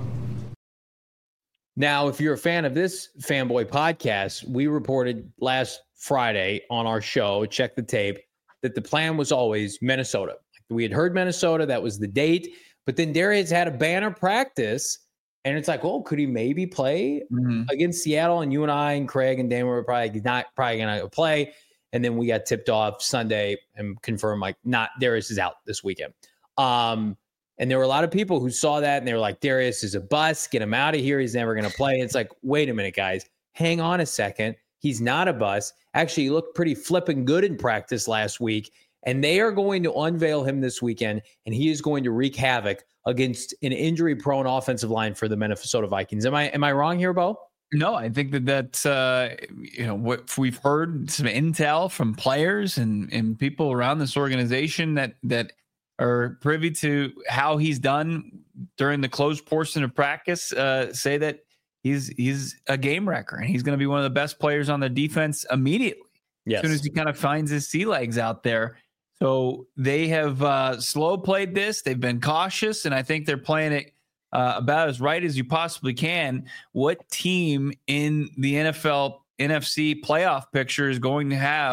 Now, if you're a fan of this Fanboy podcast, we reported last Friday on our show, check the tape, that the plan was always Minnesota. We had heard Minnesota, that was the date, but then Darius had a banner practice, and it's like, oh, could he maybe play against Seattle? And you and I and Craig and Dan were probably going to play. And then we got tipped off Sunday and confirmed, like, Darius is out this weekend. And there were a lot of people who saw that and they were like, Darius is a bust. Get him out of here. He's never going to play. It's like, wait a minute, guys. Hang on a second. He's not a bust. Actually, he looked pretty flipping good in practice last week. And they are going to unveil him this weekend, and he is going to wreak havoc against an injury-prone offensive line for the Minnesota Vikings. Am I wrong here, Bo? No, I think that's what we've heard, some intel from players and people around this organization that are privy to how he's done during the closed portion of practice. Say that he's a game wrecker and he's going to be one of the best players on the defense immediately. Yes. As soon as he kind of finds his sea legs out there. So they have slow played this. They've been cautious, and I think they're playing it about as right as you possibly can. What team in the NFL NFC playoff picture is going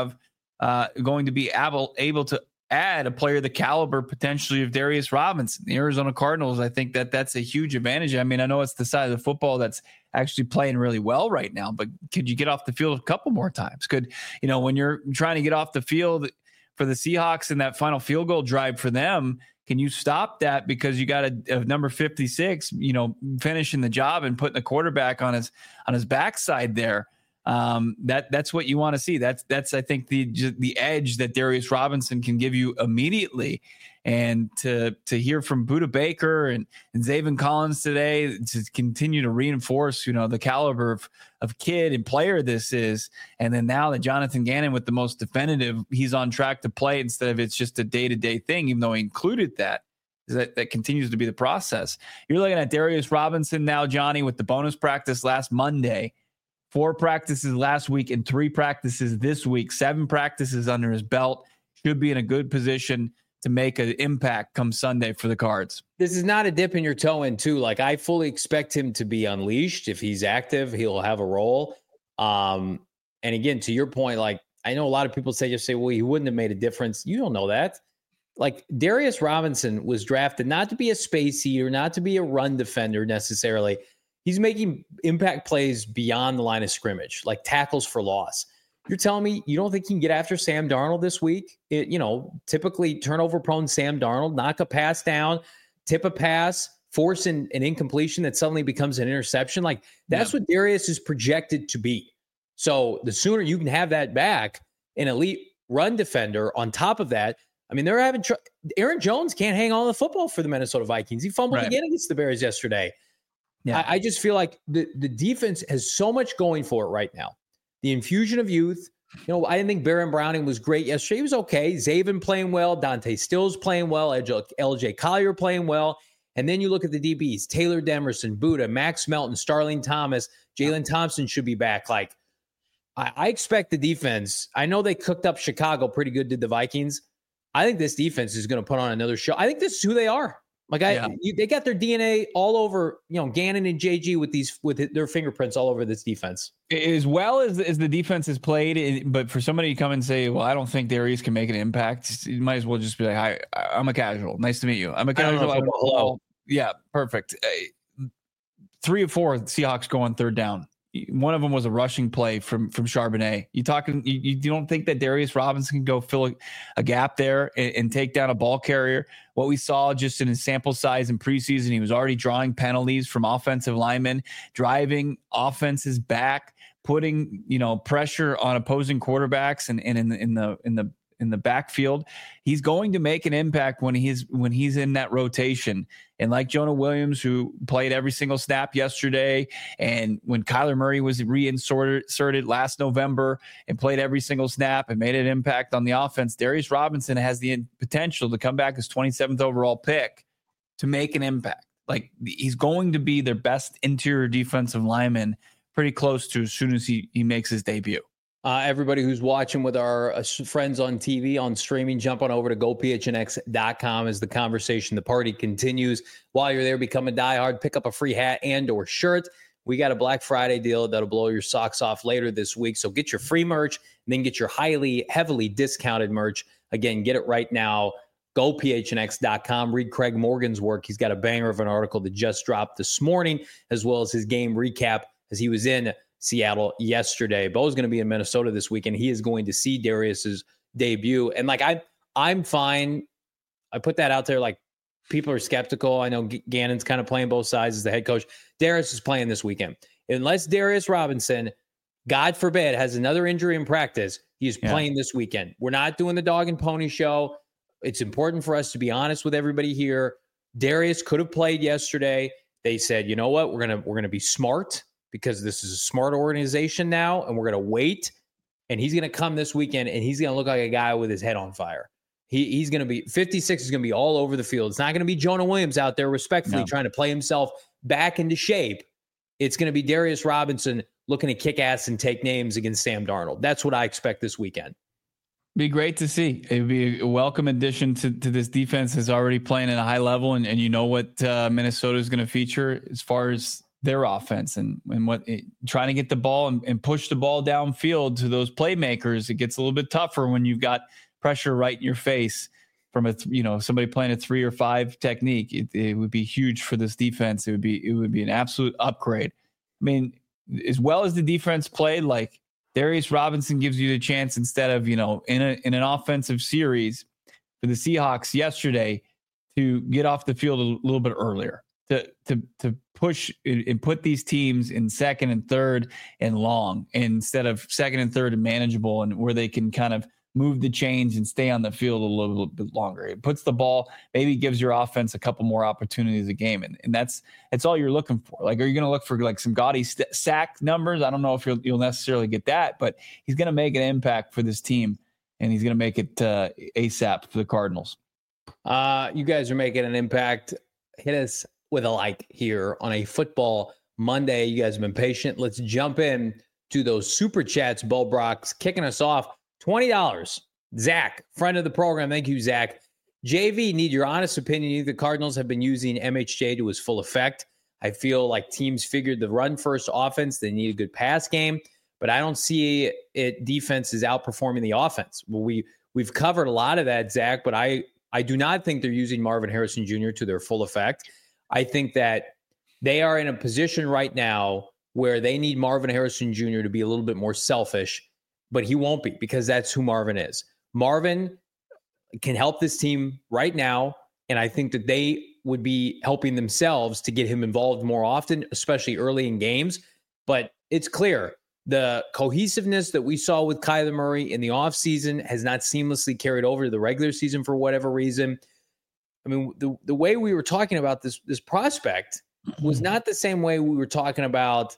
to be able to add a player the caliber potentially of Darius Robinson? The Arizona Cardinals, I think that's a huge advantage. I mean, I know it's the side of the football that's actually playing really well right now, but could you get off the field a couple more times? When you're trying to get off the field for the Seahawks in that final field goal drive for them, can you stop that because you got a number 56, finishing the job and putting the quarterback on his backside there? That's what you want to see. That's I think the edge that Darius Robinson can give you immediately. And to hear from Budda Baker and Zaven Collins today to continue to reinforce, the caliber of kid and player this is. And then now that Jonathan Gannon with the most definitive, he's on track to play instead of it's just a day-to-day thing, even though he included that continues to be the process. You're looking at Darius Robinson now, Johnny, with the bonus practice last Monday, 4 practices last week and 3 practices this week, 7 practices under his belt, should be in a good position to make an impact come Sunday for the Cards. This is not a dip in your toe in too. Like, I fully expect him to be unleashed. If he's active, he'll have a role. And again, to your point, like, I know a lot of people say, well, he wouldn't have made a difference. You don't know that. Like, Darius Robinson was drafted not to be a space eater, not to be a run defender necessarily. He's making impact plays beyond the line of scrimmage, like tackles for loss. You're telling me you don't think he can get after Sam Darnold this week? Typically turnover-prone Sam Darnold, knock a pass down, tip a pass, force an incompletion that suddenly becomes an interception. Like, that's what Darius is projected to be. So the sooner you can have that back, an elite run defender on top of that. I mean, they're having Aaron Jones can't hang on the football for the Minnesota Vikings. He fumbled again against the Bears yesterday. Yeah. I just feel like the defense has so much going for it right now. The infusion of youth. I didn't think Baron Browning was great yesterday. He was okay. Zaven playing well. Dante Stills playing well. LJ Collier playing well. And then you look at the DBs. Taylor Demerson, Budda, Max Melton, Starling Thomas, Jalen Thompson should be back. Like, I expect the defense. I know they cooked up Chicago pretty good, did the Vikings. I think this defense is going to put on another show. I think this is who they are. Like, they got their DNA all over, Gannon and JG with their fingerprints all over this defense. As well as the defense has played, but for somebody to come and say, well, I don't think Darius can make an impact, you might as well just be like, hi, I'm a casual. Nice to meet you. I'm a casual. Hello. Yeah, perfect. 3 of 4 Seahawks go on 3rd down. One of them was a rushing play from Charbonnet. You don't think that Darius Robinson can go fill a gap there and take down a ball carrier? What we saw just in his sample size in preseason, he was already drawing penalties from offensive linemen, driving offenses back, putting pressure on opposing quarterbacks and in the backfield. He's going to make an impact when he's in that rotation. And like Jonah Williams, who played every single snap yesterday, and when Kyler Murray was reinserted last November and played every single snap and made an impact on the offense, Darius Robinson has the potential to come back as 27th overall pick to make an impact. Like, he's going to be their best interior defensive lineman pretty close to as soon as he makes his debut. Everybody who's watching with our friends on TV, on streaming, jump on over to gophnx.com as the conversation, the party continues. While you're there, become a diehard, pick up a free hat and or shirt. We got a Black Friday deal that'll blow your socks off later this week. So get your free merch and then get your heavily discounted merch. Again, get it right now. GoPHNX.com. Read Craig Morgan's work. He's got a banger of an article that just dropped this morning, as well as his game recap as he was in Seattle yesterday. Bo's going to be in Minnesota this weekend. He is going to see Darius's debut. And like, I'm fine. I put that out there. Like, people are skeptical. I know Gannon's kind of playing both sides as the head coach. Darius is playing this weekend. Unless Darius Robinson, God forbid, has another injury in practice, he's playing this weekend. We're not doing the dog and pony show. It's important for us to be honest with everybody here. Darius could have played yesterday. They said, you know what? We're gonna be smart because this is a smart organization now, and we're gonna wait. And he's gonna come this weekend, and he's gonna look like a guy with his head on fire. He's gonna be 56 is gonna be all over the field. It's not gonna be Jonah Williams out there respectfully trying to play himself back into shape. It's gonna be Darius Robinson looking to kick ass and take names against Sam Darnold. That's what I expect this weekend. Be great to see. It'd be a welcome addition to this defense is already playing at a high level, and you know what Minnesota is going to feature as far as their offense and what trying to get the ball and push the ball downfield to those playmakers. It gets a little bit tougher when you've got pressure right in your face from somebody playing a 3 or 5 technique. It would be huge for this defense. It would be an absolute upgrade. I mean, as well as the defense played, like Darius Robinson gives you the chance instead of, in an offensive series for the Seahawks yesterday to get off the field a little bit earlier, to push and put these teams in second and third and long instead of second and third and manageable, and where they can kind of move the chains and stay on the field a little bit longer. It puts the ball, maybe gives your offense a couple more opportunities a game. And that's all you're looking for. Like, are you going to look for like some gaudy sack numbers? I don't know if you'll necessarily get that, but he's going to make an impact for this team, and he's going to make it ASAP for the Cardinals. You guys are making an impact. Hit us with a like here on a Football Monday. You guys have been patient. Let's jump in to those super chats. Bo Brock's kicking us off. $20. Zach, friend of the program. Thank you, Zach. JV, need your honest opinion. The Cardinals have been using MHJ to his full effect. I feel like teams figured the run-first offense. They need a good pass game, but I don't see it. Defense is outperforming the offense. Well, we've covered a lot of that, Zach, but I do not think they're using Marvin Harrison Jr. to their full effect. I think that they are in a position right now where they need Marvin Harrison Jr. to be a little bit more selfish, but he won't be, because that's who Marvin is. Marvin can help this team right now, and I think that they would be helping themselves to get him involved more often, especially early in games. But it's clear the cohesiveness that we saw with Kyler Murray in the offseason has not seamlessly carried over to the regular season for whatever reason. I mean, the way we were talking about this prospect was not the same way we were talking about,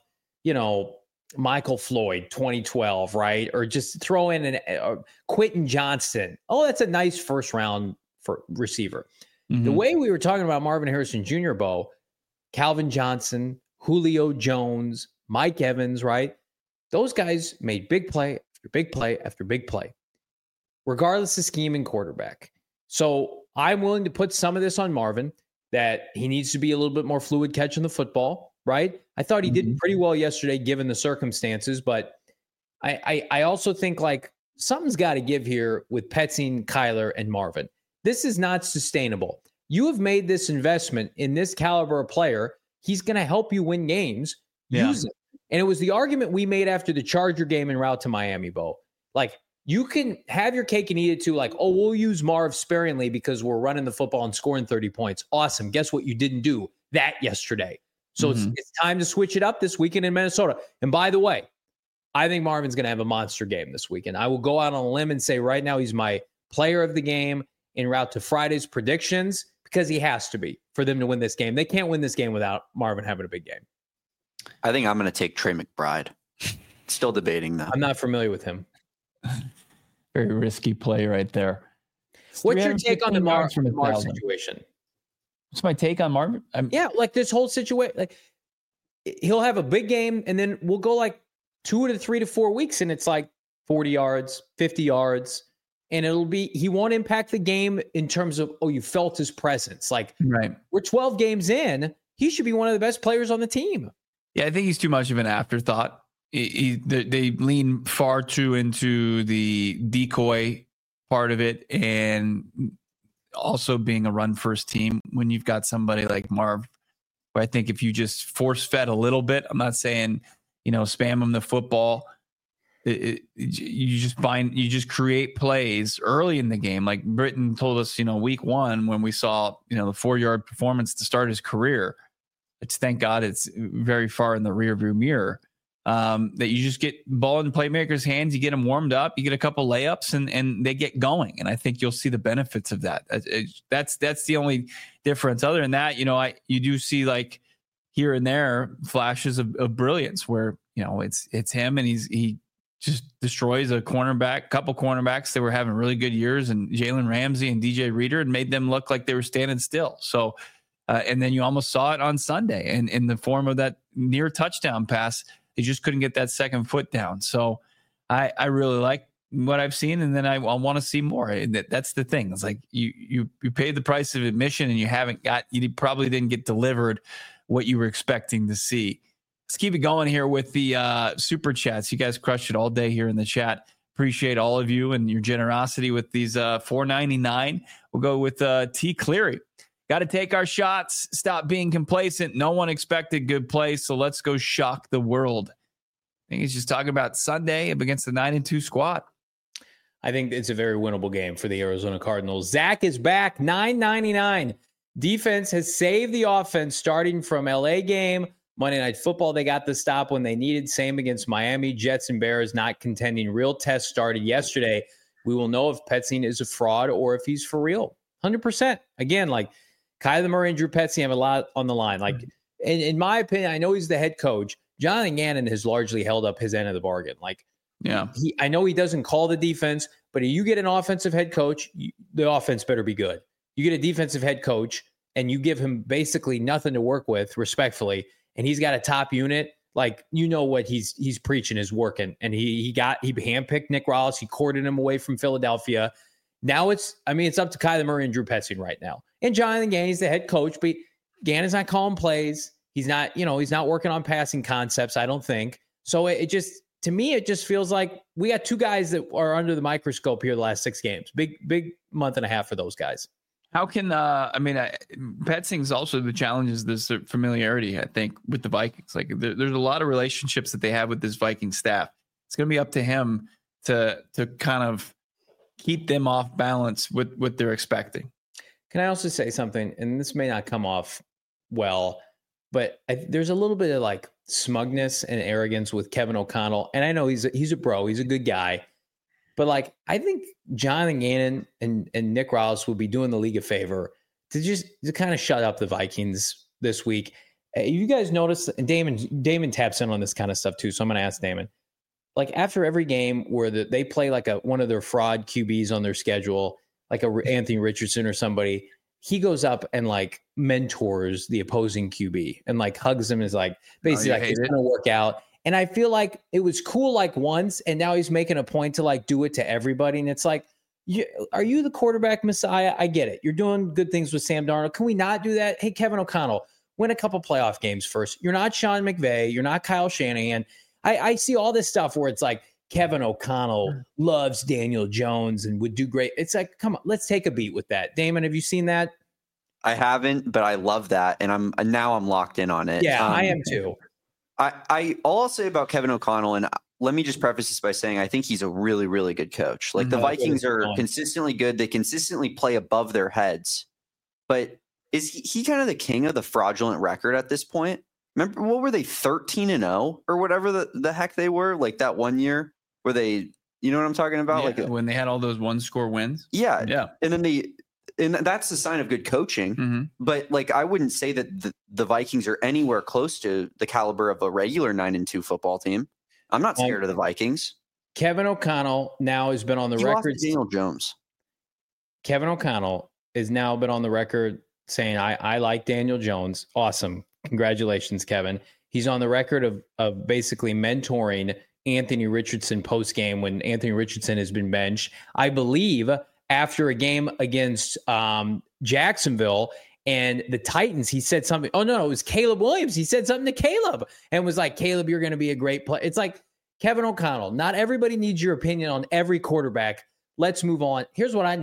Michael Floyd, 2012, right? Or just throw in Quentin Johnston. Oh, that's a nice first round for receiver. Mm-hmm. The way we were talking about Marvin Harrison Jr., Bo, Calvin Johnson, Julio Jones, Mike Evans, right? Those guys made big play after big play after big play, regardless of scheme and quarterback. So I'm willing to put some of this on Marvin, that he needs to be a little bit more fluid catching the football, right? I thought he did pretty well yesterday given the circumstances, but I also think like something's got to give here with Petzing, Kyler, and Marvin. This is not sustainable. You have made this investment in this caliber of player. He's going to help you win games. Yeah. Use it. And it was the argument we made after the Charger game en route to Miami, Bo. Like, you can have your cake and eat it too. Like, oh, we'll use Marv sparingly because we're running the football and scoring 30 points. Awesome. Guess what? You didn't do that yesterday. So it's time to switch it up this weekend in Minnesota. And by the way, I think Marvin's going to have a monster game this weekend. I will go out on a limb and say right now he's my player of the game en route to Friday's predictions, because he has to be for them to win this game. They can't win this game without Marvin having a big game. I think I'm going to take Trey McBride. Still debating that. I'm not familiar with him. Very risky play right there. What's your take on the Marv situation? What's my take on Marvin? Yeah, like this whole situation. Like, he'll have a big game, and then we'll go like 2 to 3 to 4 weeks, and it's like 40 yards, 50 yards, and he won't impact the game in terms of, you felt his presence. Like, right. We're 12 games in. He should be one of the best players on the team. Yeah, I think he's too much of an afterthought. They lean far too into the decoy part of it, and also being a run-first team when you've got somebody like Marv, where I think if you just force-fed a little bit, I'm not saying, spam him the football, you just create plays early in the game. Like Britton told us, week 1 when we saw, the 4-yard performance to start his career. It's thank God it's very far in the rearview mirror. That you just get ball in playmakers' hands, you get them warmed up, you get a couple layups, and they get going. And I think you'll see the benefits of that. That's the only difference. Other than that, you do see like here and there flashes of brilliance where it's him and he just destroys couple cornerbacks that were having really good years, and Jalen Ramsey and DJ Reader, and made them look like they were standing still. So, and then you almost saw it on Sunday, and in the form of that near touchdown pass. They just couldn't get that second foot down. So I really like what I've seen, and then I want to see more. And that's the thing. It's like you paid the price of admission, and you probably didn't get delivered what you were expecting to see. Let's keep it going here with the super chats. You guys crushed it all day here in the chat. Appreciate all of you and your generosity with these $4.99. We'll go with T. Cleary. Got to take our shots. Stop being complacent. No one expected good play, so let's go shock the world. I think he's just talking about Sunday against the 9-2 squad. I think it's a very winnable game for the Arizona Cardinals. Zach is back, $9.99. Defense has saved the offense starting from LA game. Monday Night Football, they got the stop when they needed. Same against Miami. Jets and Bears not contending. Real test started yesterday. We will know if Petzing is a fraud or if he's for real. 100%. Again, like, Kyler Murray and Drew Petzing have a lot on the line. Like, in my opinion, I know he's the head coach. Jonathan Gannon has largely held up his end of the bargain. Like, yeah, I know he doesn't call the defense, but if you get an offensive head coach, the offense better be good. You get a defensive head coach, and you give him basically nothing to work with, respectfully, and he's got a top unit. Like, what he's preaching is working, and he handpicked Nick Rallis. He courted him away from Philadelphia. Now it's up to Kyler Murray and Drew Petzing right now. And Jonathan Gannon's the head coach, but Gannon's not calling plays. He's not working on passing concepts, I don't think. So to me, it just feels like we got two guys that are under the microscope here the last 6 games. Big month and a half for those guys. How can, Petzing's also the challenge is this familiarity, I think, with the Vikings. Like there's a lot of relationships that they have with this Viking staff. It's going to be up to him to kind of keep them off balance with what they're expecting. Can I also say something? And this may not come off well, but there's a little bit of like smugness and arrogance with Kevin O'Connell. And I know he's a bro. He's a good guy. But like, I think Jonathan Gannon and Nick Rallis will be doing the league a favor to kind of shut up the Vikings this week. You guys notice, and Damon taps in on this kind of stuff too. So I'm going to ask Damon. Like after every game where they play like one of their fraud QBs on their schedule, like a Anthony Richardson or somebody, he goes up and like mentors the opposing QB and like hugs him and is like, basically like it's going to work out. And I feel like it was cool like once, and now he's making a point to like do it to everybody. And it's like, are you the quarterback messiah? I get it. You're doing good things with Sam Darnold. Can we not do that? Hey, Kevin O'Connell, win a couple playoff games first. You're not Sean McVay. You're not Kyle Shanahan. I see all this stuff where it's like Kevin O'Connell loves Daniel Jones and would do great. It's like, come on, let's take a beat with that. Damon, have you seen that? I haven't, but I love that. And I'm locked in on it. Yeah, I am too. All I'll say about Kevin O'Connell, and let me just preface this by saying I think he's a really, really good coach. Like the Vikings are consistently good. They consistently play above their heads. But is he kind of the king of the fraudulent record at this point? Remember, what were they, 13-0 or whatever the heck they were? Like that one year where they, you know what I'm talking about? Yeah, like when they had all those 1-score wins. Yeah. Yeah. And then and that's the sign of good coaching. Mm-hmm. But like, I wouldn't say that the Vikings are anywhere close to the caliber of a regular 9-2 football team. I'm not scared of the Vikings. Kevin O'Connell now has been on the record. Daniel Jones. Kevin O'Connell has now been on the record saying, I like Daniel Jones. Awesome. Congratulations, Kevin. He's on the record of basically mentoring Anthony Richardson post-game when Anthony Richardson has been benched. I believe after a game against Jacksonville and the Titans, he said something. Oh, no, it was Caleb Williams. He said something to Caleb and was like, Caleb, you're going to be a great player. It's like, Kevin O'Connell, not everybody needs your opinion on every quarterback. Let's move on. Here's what I need.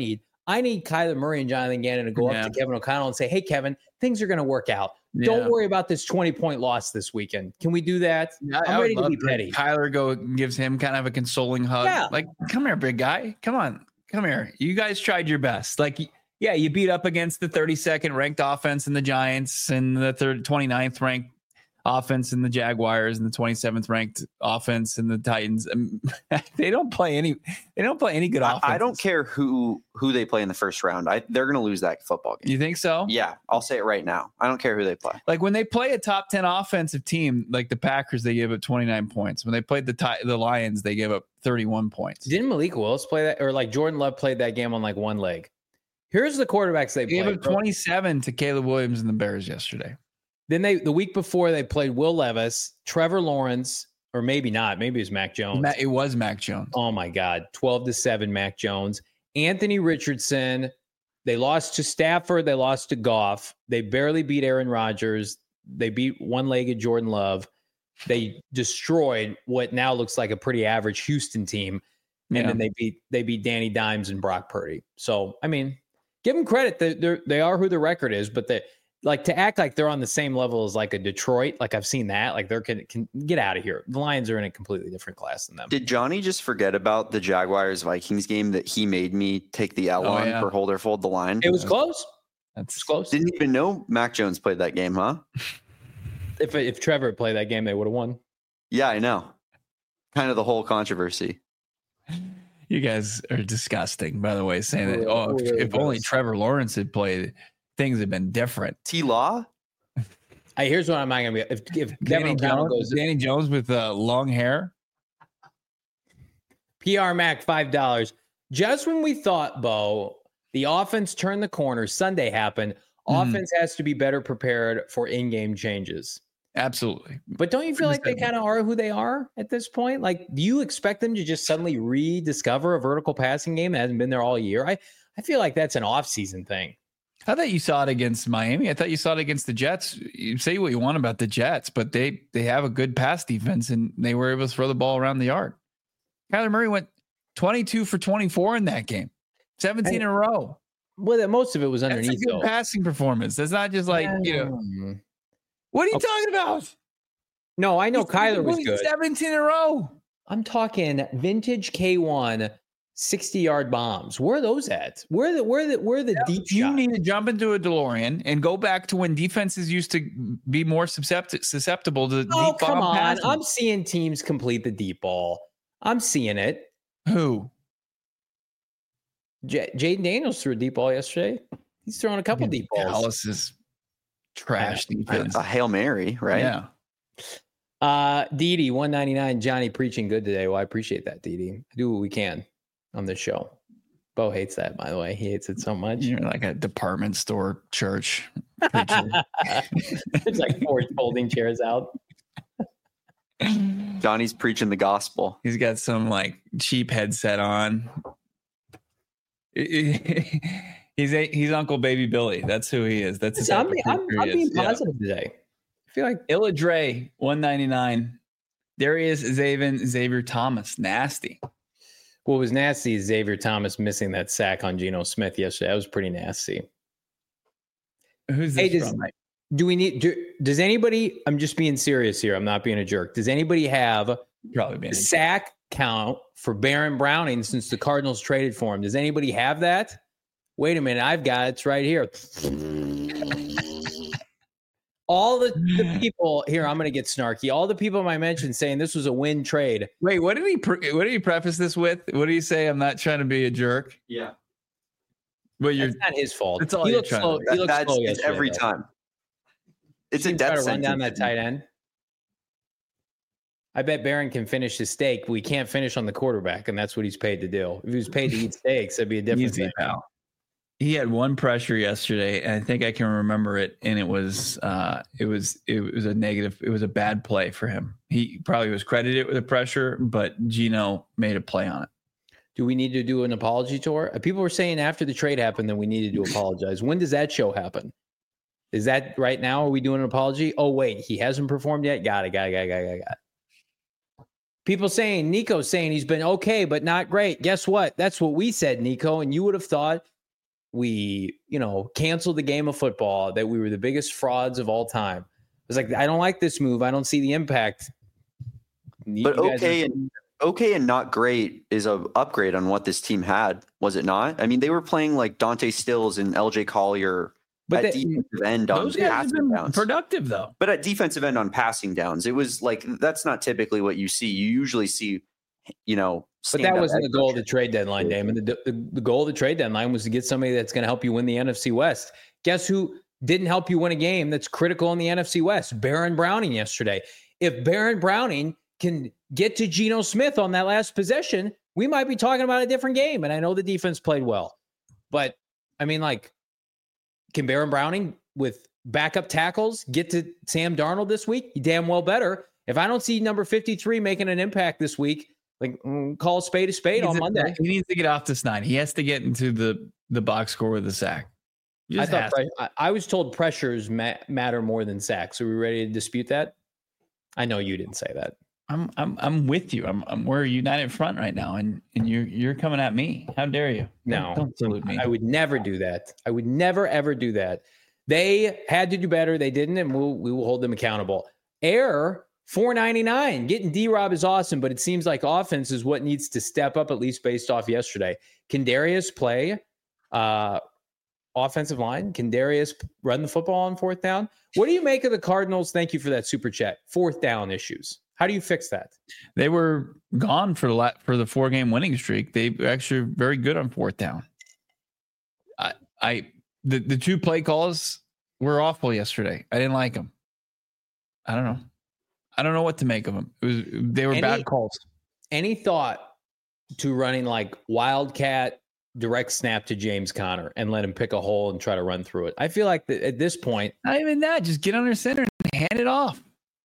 I need Kyler Murray and Jonathan Gannon to go up to Kevin O'Connell and say, hey, Kevin, things are going to work out. Yeah. Don't worry about this 20-point loss this weekend. Can we do that? I'm ready to be petty. Kyler gives him kind of a consoling hug. Yeah. Like, come here, big guy. Come on. Come here. You guys tried your best. Like, yeah, you beat up against the 32nd ranked offense in the Giants and the 29th ranked offense in the Jaguars and the 27th ranked offense in the Titans. They don't play any good offense. I don't care who they play in the first round. They're going to lose that football game. You think so? Yeah, I'll say it right now. I don't care who they play. Like when they play a top 10 offensive team, like the Packers, they gave up 29 points. When they played the Lions, they gave up 31 points. Didn't Malik Willis play that? Or like Jordan Love played that game on like one leg? Here's the quarterbacks they played. Gave up 27 to Caleb Williams and the Bears yesterday. Then the week before they played Will Levis, Trevor Lawrence, or maybe not. Maybe it was Mac Jones. It was Mac Jones. Oh my God. 12-7 Mac Jones. Anthony Richardson. They lost to Stafford. They lost to Goff. They barely beat Aaron Rodgers. They beat one-legged Jordan Love. They destroyed what now looks like a pretty average Houston team. And then they beat Danny Dimes and Brock Purdy. So, I mean, give them credit. They are who the record is, but like to act like they're on the same level as like a Detroit, like I've seen that, like they're can get out of here. The Lions are in a completely different class than them. Did Johnny just forget about the Jaguars-Vikings game that he made me take the L on for hold or fold the line? It was close. That's close. Didn't even know Mac Jones played that game, huh? If Trevor had played that game, they would have won. Yeah, I know. Kind of the whole controversy. You guys are disgusting, by the way, saying that, if only Trevor Lawrence had played, things have been different. T-Law? Here's what I'm not going to be. If Danny Jones with long hair. PR Mac, $5. Just when we thought, Bo, the offense turned the corner, Sunday happened, offense has to be better prepared for in-game changes. Absolutely. But don't you feel like they kind of are who they are at this point? Like, do you expect them to just suddenly rediscover a vertical passing game that hasn't been there all year? I feel like that's an off-season thing. I thought you saw it against Miami. I thought you saw it against the Jets. You say what you want about the Jets, but they have a good pass defense, and they were able to throw the ball around the yard. Kyler Murray went 22 for 24 in that game, 17 in a row. Well, most of it was underneath. That's a good passing performance. That's not just like, what are you talking about? No, I know Kyler was good. 17 in a row. I'm talking vintage K1 60-yard bombs. Where are those at? Where are the deep shots? You need to jump into a DeLorean and go back to when defenses used to be more susceptible to deep bomb passing. I'm seeing teams complete the deep ball. I'm seeing it. Who? Jaden Daniels threw a deep ball yesterday. He's throwing a couple deep balls. Dallas is trash defense. A Hail Mary, right? Yeah. Didi, 199. Johnny preaching good today. Well, I appreciate that, Didi. Do what we can on this show. Bo hates that, by the way. He hates it so much. You're like a department store church. There's like 4 folding chairs out. Johnny's preaching the gospel. He's got some like cheap headset on. He's Uncle Baby Billy. That's who he is. That's I'm being positive today. I feel like Illa Dre, 199. Darius Xavier Thomas, nasty. What was nasty is Xavier Thomas missing that sack on Geno Smith yesterday. That was pretty nasty. Who's this from? Does anybody, I'm just being serious here, I'm not being a jerk. Does anybody have the sack count for Baron Browning since the Cardinals traded for him? Does anybody have that? Wait a minute, I've got it. It's right here. All the people here, I'm going to get snarky. All the people I mentioned saying this was a win trade. Wait, what did he preface this with? What did he say? I'm not trying to be a jerk. Yeah, but it's not his fault. That's all he looks slow. He looks slow yesterday, every time. It's a death sentence. Run down that tight end. I bet Barron can finish his steak, but we can't finish on the quarterback, and that's what he's paid to do. If he was paid to eat steaks, that'd be a different thing. Pal. He had one pressure yesterday, and I think I can remember it. And it was a negative. It was a bad play for him. He probably was credited with the pressure, but Geno made a play on it. Do we need to do an apology tour? People were saying after the trade happened that we needed to apologize. When does that show happen? Is that right now? Are we doing an apology? Oh wait, he hasn't performed yet. Got it. People saying Nico's saying he's been okay, but not great. Guess what? That's what we said, Nico. And you would have thought we, canceled the game of football, that we were the biggest frauds of all time. It's like, I don't like this move. I don't see the impact. But okay and not great is an upgrade on what this team had, was it not? I mean, they were playing like Dante Stills and LJ Collier at defensive end on passing downs. Productive though. But at defensive end on passing downs, it was like, that's not typically what you see. You usually see, but that wasn't the goal of the trade deadline, Damon. The goal of the trade deadline was to get somebody that's going to help you win the NFC West. Guess who didn't help you win a game that's critical in the NFC West? Baron Browning yesterday. If Baron Browning can get to Geno Smith on that last possession, we might be talking about a different game. And I know the defense played well, but I mean, like, can Baron Browning with backup tackles get to Sam Darnold this week? He damn well better. If I don't see number 53 making an impact this week, like, call a spade on Monday. He needs to get off this 9. He has to get into the box score with a sack. I was told pressures matter more than sacks. Are we ready to dispute that? I know you didn't say that. I'm with you. We're united front right now, and you're coming at me. How dare you? No, don't salute me. I would never do that. I would never ever do that. They had to do better. They didn't, and we will hold them accountable. Error $4.99. Getting D-Rob is awesome, but it seems like offense is what needs to step up, at least based off yesterday. Can Darius play offensive line? Can Darius run the football on fourth down? What do you make of the Cardinals? Thank you for that super chat. Fourth down issues. How do you fix that? They were gone for the 4-game winning streak. They were actually very good on fourth down. The 2 play calls were awful yesterday. I didn't like them. I don't know what to make of them. They were bad calls. Any thought to running like wildcat direct snap to James Conner and let him pick a hole and try to run through it? I feel like at this point, not even that. Just get under center and hand it off.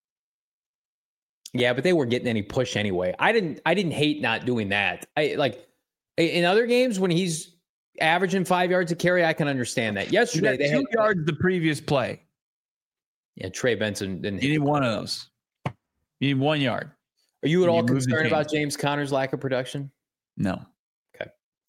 Yeah, but they weren't getting any push anyway. I didn't hate not doing that. I like in other games when he's averaging 5 yards a carry, I can understand that. Yesterday they had 2 yards the previous play. Yeah, Trey Benson didn't. You need one of those. You need 1 yard. Are you at all concerned about James Conner's lack of production? No. Okay.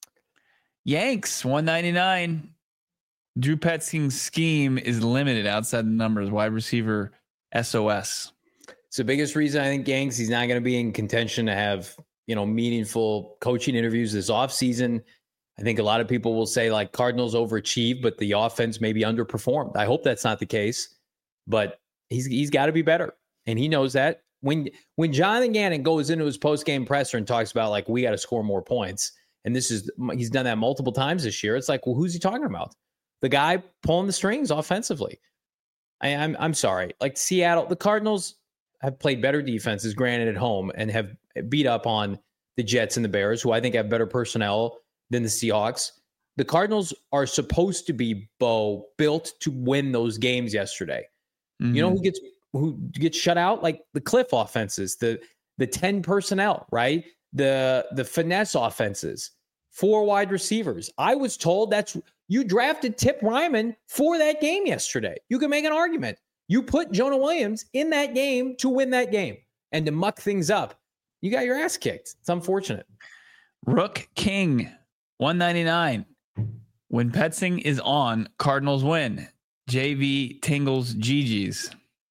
Yanks, $199. Drew Petzing's scheme is limited outside the numbers. Wide receiver SOS. It's the biggest reason I think Yanks, he's not going to be in contention to have, meaningful coaching interviews this offseason. I think a lot of people will say like Cardinals overachieved, but the offense maybe underperformed. I hope that's not the case, but he's got to be better. And he knows that. When Jonathan Gannon goes into his post-game presser and talks about like, we got to score more points, and he's done that multiple times this year, it's like, well, who's he talking about? The guy pulling the strings offensively. I'm sorry. Like Seattle, the Cardinals have played better defenses, granted at home, and have beat up on the Jets and the Bears, who I think have better personnel than the Seahawks. The Cardinals are supposed to be, built to win those games yesterday. Mm-hmm. You know who gets shut out? Like the Cliff offenses, the 10 personnel, right? The finesse offenses, 4 wide receivers. I was told you drafted Tip Ryman for that game yesterday. You can make an argument. You put Jonah Williams in that game to win that game and to muck things up. You got your ass kicked. It's unfortunate. Rook King, $199. When Petzing is on, Cardinals win. JV Tingles GG's.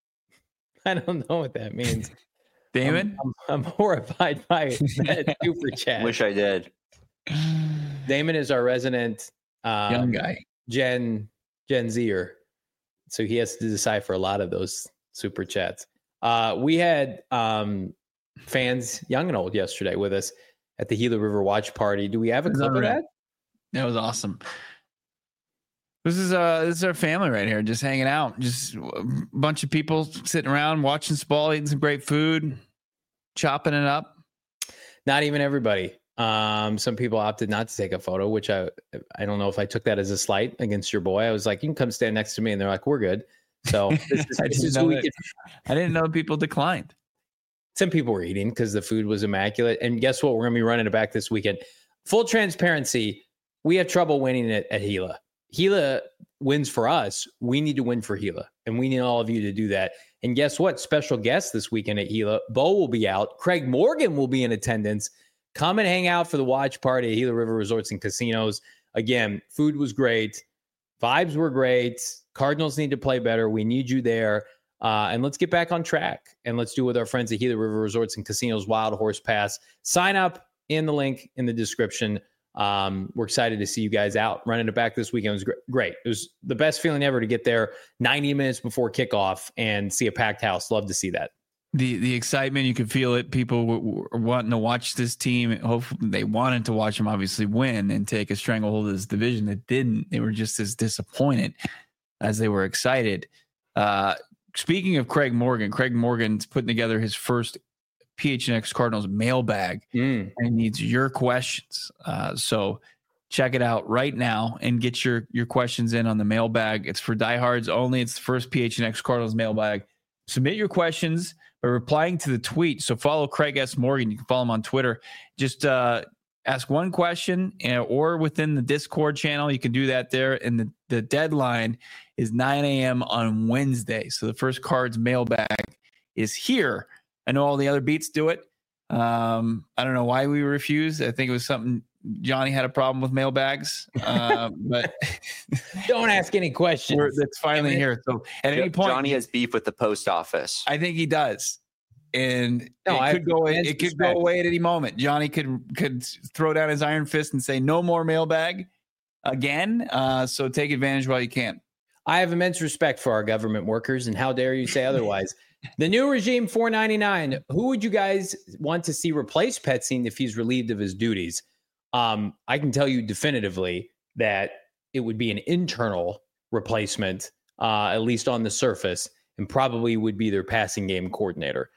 I don't know what that means. Damon? I'm horrified by that super chat. Wish I did. Damon is our resident young guy. Gen Zer. So he has to decipher a lot of those super chats. We had fans, young and old, yesterday with us at the Gila River watch party. Do we have a clip of that? That was awesome. This is our family right here, just hanging out. Just a bunch of people sitting around, watching Spall, eating some great food, chopping it up. Not even everybody. Some people opted not to take a photo, which I don't know if I took that as a slight against your boy. I was like, you can come stand next to me. And they're like, we're good. So I didn't know people declined. Some people were eating because the food was immaculate. And guess what? We're going to be running it back this weekend. Full transparency. We have trouble winning it at Gila. Gila wins for us. We need to win for Gila. And we need all of you to do that. And guess what? Special guest this weekend at Gila. Bo will be out. Craig Morgan will be in attendance. Come and hang out for the watch party at Gila River Resorts and Casinos. again, food was great. Vibes were great. Cardinals need to play better. We need you there. And let's get back on track. And let's do it with our friends at Gila River Resorts and Casinos Wild Horse Pass. Sign up in the link in the description. We're excited to see you guys out. Running it back this weekend was great. It was the best feeling ever to get there 90 minutes before kickoff and see a packed house. Love to see that. The excitement, you could feel it. People were wanting to watch this team. Hopefully they wanted to watch them obviously win and take a stranglehold of this division. That didn't. They were just as disappointed as they were excited. Speaking of Craig Morgan's putting together his first PHNX Cardinals mailbag and needs your questions. So check it out right now and get your questions in on the mailbag. It's for diehards only. It's the first PHNX Cardinals mailbag. Submit your questions by replying to the tweet. So follow Craig S. Morgan. You can follow him on Twitter. Just ask one question or within the Discord channel. You can do that there. And the deadline is 9 a.m. on Wednesday. So the first Cards mailbag is here. I know all the other beats do it. I don't know why we refused. I think it was something Johnny had a problem with mailbags. But don't ask any questions. It's finally here. So at any point, Johnny has beef with the post office. I think he does. And it could go away at any moment. Johnny could throw down his iron fist and say no more mailbag again. So take advantage while you can. I have immense respect for our government workers, and how dare you say otherwise? The new regime, $4.99. Who would you guys want to see replace Petzing if he's relieved of his duties? I can tell you definitively that it would be an internal replacement, at least on the surface, and probably would be their passing game coordinator.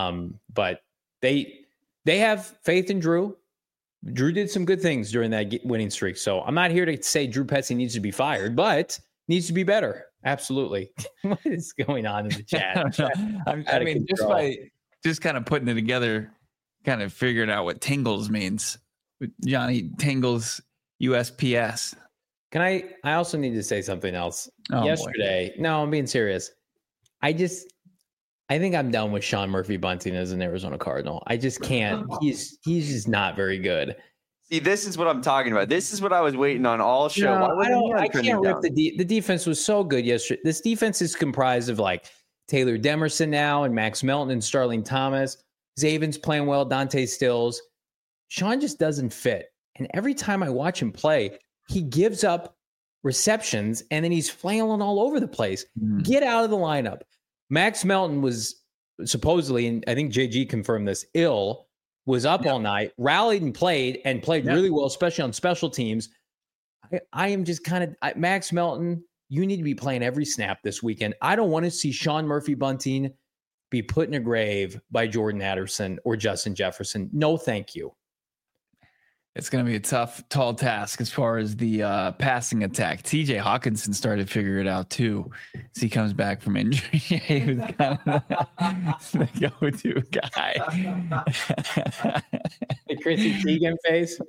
But they have faith in Drew. Drew did some good things during that winning streak. So I'm not here to say Drew Petzing needs to be fired, but needs to be better. Absolutely. What is going on in the chat? I mean, just kind of putting it together, kind of figuring out what Tingles means. Johnny Tingles USPS. I also need to say something else. Yesterday, no, I'm being serious. I think I'm done with Sean Murphy-Bunting as an Arizona Cardinal. I just can't. He's just not very good. See, this is what I'm talking about. This is what I was waiting on all show. No, I can't rip the defense was so good yesterday. This defense is comprised of like Taylor Demerson now and Max Melton and Starling Thomas. Zaven's playing well, Dante Stills. Sean just doesn't fit. And every time I watch him play, he gives up receptions and then he's flailing all over the place. Get out of the lineup. Max Melton was supposedly, and I think JG confirmed this, was up all night, rallied and played really well, especially on special teams. I am just kind of Max Melton. You need to be playing every snap this weekend. I don't want to see Sean Murphy-Bunting be put in a grave by Jordan Addison or Justin Jefferson. No, thank you. It's going to be a tough, tall task as far as the passing attack. TJ Hawkinson started to figure it out too as he comes back from injury. He was kind of the go-to guy. The Chrissy Teigen face.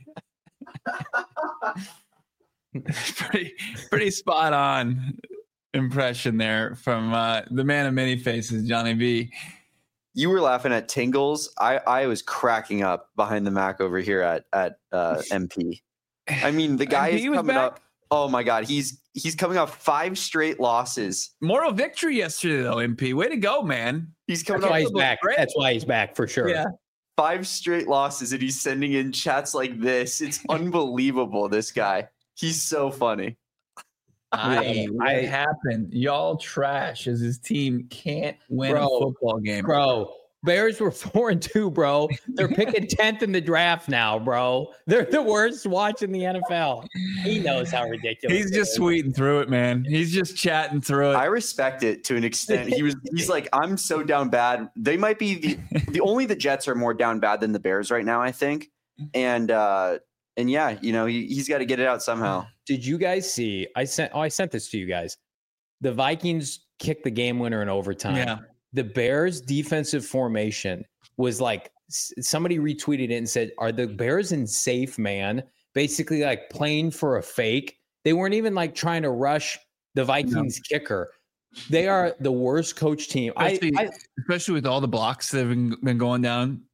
pretty spot on impression there from the man of many faces, Johnny B. You were laughing at Tingles. I was cracking up behind the Mac over here at MP. I mean, the guy is coming up. Oh my God, he's coming off 5 straight losses. Moral victory yesterday, though. MP, way to go, man. He's coming That's why he's back. That's why he's back for sure. Yeah. 5 straight losses, and he's sending in chats like this. It's unbelievable. This guy, he's so funny. What happened? Y'all trash as his team can't win a football game. Bro, Bears were 4-2, bro. They're picking 10th in the draft now, bro. They're the worst watch in the NFL. He knows how ridiculous. He's just tweeting through it, man. He's just chatting through it. I respect it to an extent. He's like, I'm so down bad. They might be the Jets are more down bad than the Bears right now, I think. And yeah, you know, he's got to get it out somehow. Did you guys see? I sent this to you guys. The Vikings kicked the game winner in overtime. Yeah. The Bears defensive formation was like, somebody retweeted it and said, are the Bears in safe man? Basically like playing for a fake. They weren't even like trying to rush the Vikings kicker. They are the worst coach team. Especially with all the blocks that have been going down.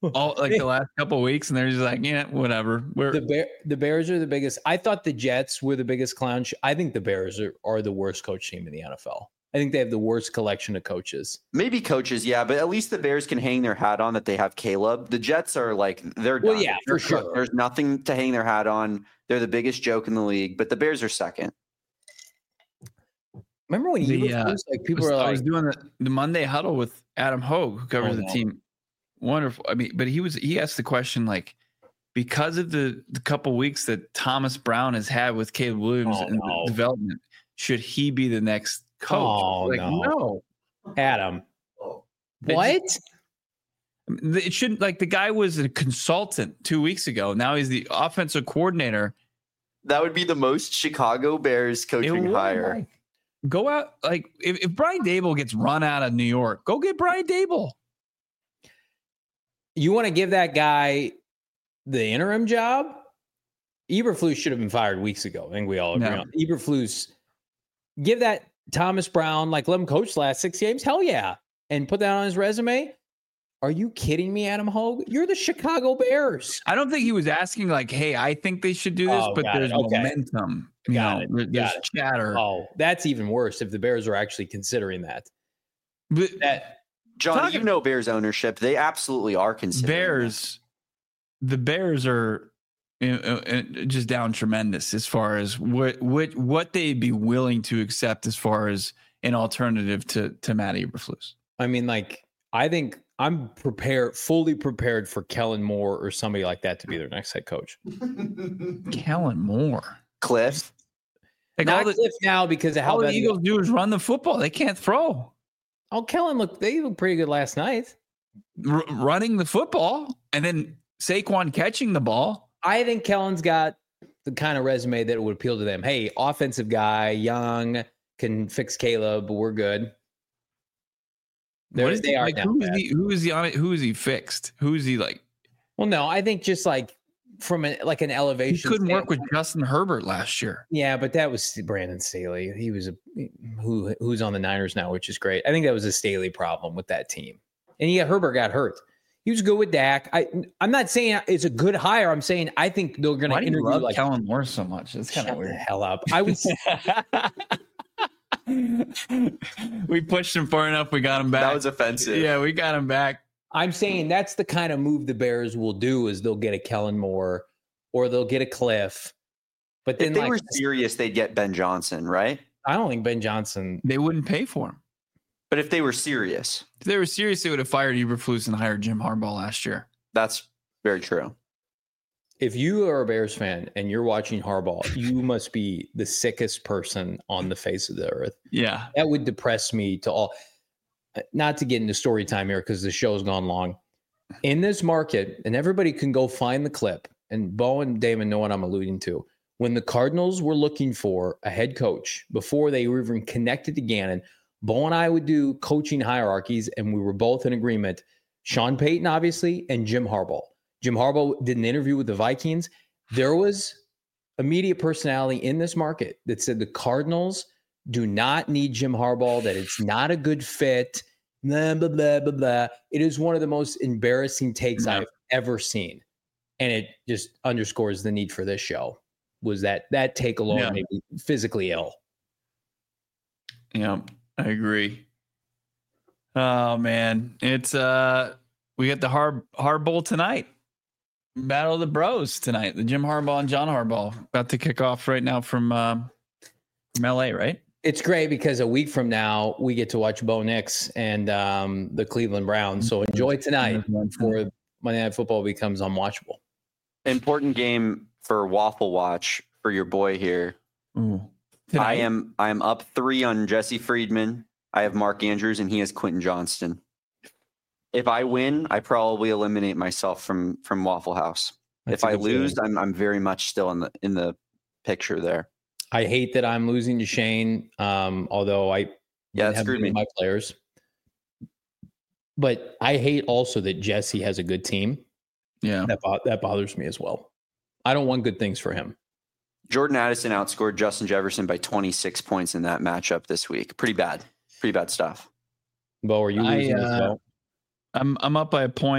all like the last couple of weeks, and they're just like, yeah, whatever. The Bears are the biggest. I thought the Jets were the biggest clown. I think the Bears are the worst coach team in the NFL. I think they have the worst collection of coaches. Maybe coaches, yeah, but at least the Bears can hang their hat on that they have Caleb. The Jets are like, they're done. Well, yeah, for sure. There's nothing to hang their hat on. They're the biggest joke in the league, but the Bears are second. Remember when I was doing the Monday huddle with Adam Hogue, who covers the team. Wonderful. I mean, but he asked the question, like, because of the couple weeks that Thomas Brown has had with Caleb Williams and the development, should he be the next coach? Oh, like, no. Adam. What? It shouldn't, like, the guy was a consultant 2 weeks ago. Now he's the offensive coordinator. That would be the most Chicago Bears coaching hire. Like, go out, like, if Brian Daboll gets run out of New York, go get Brian Daboll. You want to give that guy the interim job? Eberflus should have been fired weeks ago. I think we all agree on Eberflus. Give that Thomas Brown, like, let him coach the last 6 games. Hell yeah. And put that on his resume. Are you kidding me, Adam Hogue? You're the Chicago Bears. I don't think he was asking, like, hey, I think they should do this, but there's momentum. There's chatter. Oh, that's even worse if the Bears are actually considering that. But John, you know Bears ownership. They absolutely are considering Bears. The Bears are just down tremendous as far as what they'd be willing to accept as far as an alternative to Matt Eberflus. I mean, like, I think I'm fully prepared for Kellen Moore or somebody like that to be their next head coach. Kellen Moore, Cliff. Like, not Cliff now because of how the Eagles do is run the football. They can't throw. Oh, Kellen they looked pretty good last night. Running the football and then Saquon catching the ball. I think Kellen's got the kind of resume that would appeal to them. Hey, offensive guy, young, can fix Caleb, but we're good. Who is he on it? Who is he fixed? Who is he like? Well, no, I think just like from an elevation. He couldn't work with Justin Herbert last year. Yeah, but that was Brandon Staley. He was who's on the Niners now, which is great. I think that was a Staley problem with that team. And Herbert got hurt. He was good with Dak. I'm not saying it's a good hire. I'm saying I think they're going to interview like Kellen Moore so much. It's kind of weird. The hell up. I would. We pushed him far enough. We got him back. That was offensive. Yeah, we got him back. I'm saying that's the kind of move the Bears will do is they'll get a Kellen Moore or they'll get a Cliff. But then if they were serious, they'd get Ben Johnson, right? I don't think Ben Johnson. They wouldn't pay for him. But if they were serious. If they were serious, they would have fired Eberflus and hired Jim Harbaugh last year. That's very true. If you are a Bears fan and you're watching Harbaugh, you must be the sickest person on the face of the earth. Yeah. That would depress me to all. Not to get into story time here because the show's gone long. In this market, and everybody can go find the clip, and Bo and Damon know what I'm alluding to. When the Cardinals were looking for a head coach, before they were even connected to Gannon, Bo and I would do coaching hierarchies, and we were both in agreement. Sean Payton, obviously, and Jim Harbaugh. Jim Harbaugh did an interview with the Vikings. There was a media personality in this market that said the Cardinals do not need Jim Harbaugh, that it's not a good fit, blah, blah, blah, blah, blah. It is one of the most embarrassing takes I've ever seen. And it just underscores the need for this show. Was that take alone made me physically ill. Yeah, I agree. Oh, man. It's we got the Hard Bowl tonight. Battle of the Bros tonight. The Jim Harbaugh and John Harbaugh about to kick off right now from LA, right? It's great because a week from now we get to watch Bo Nix and the Cleveland Browns. So enjoy tonight before Monday Night Football becomes unwatchable. Important game for Waffle Watch for your boy here. Ooh. I am up 3 on Jesse Friedman. I have Mark Andrews and he has Quentin Johnston. If I win, I probably eliminate myself from Waffle House. If I lose, I'm very much still in the picture there. I hate that I'm losing to Shane, although I have screwed me my players. But I hate also that Jesse has a good team. Yeah, that bothers me as well. I don't want good things for him. Jordan Addison outscored Justin Jefferson by 26 points in that matchup this week. Pretty bad stuff. Bo, are you losing as well? I'm up by a point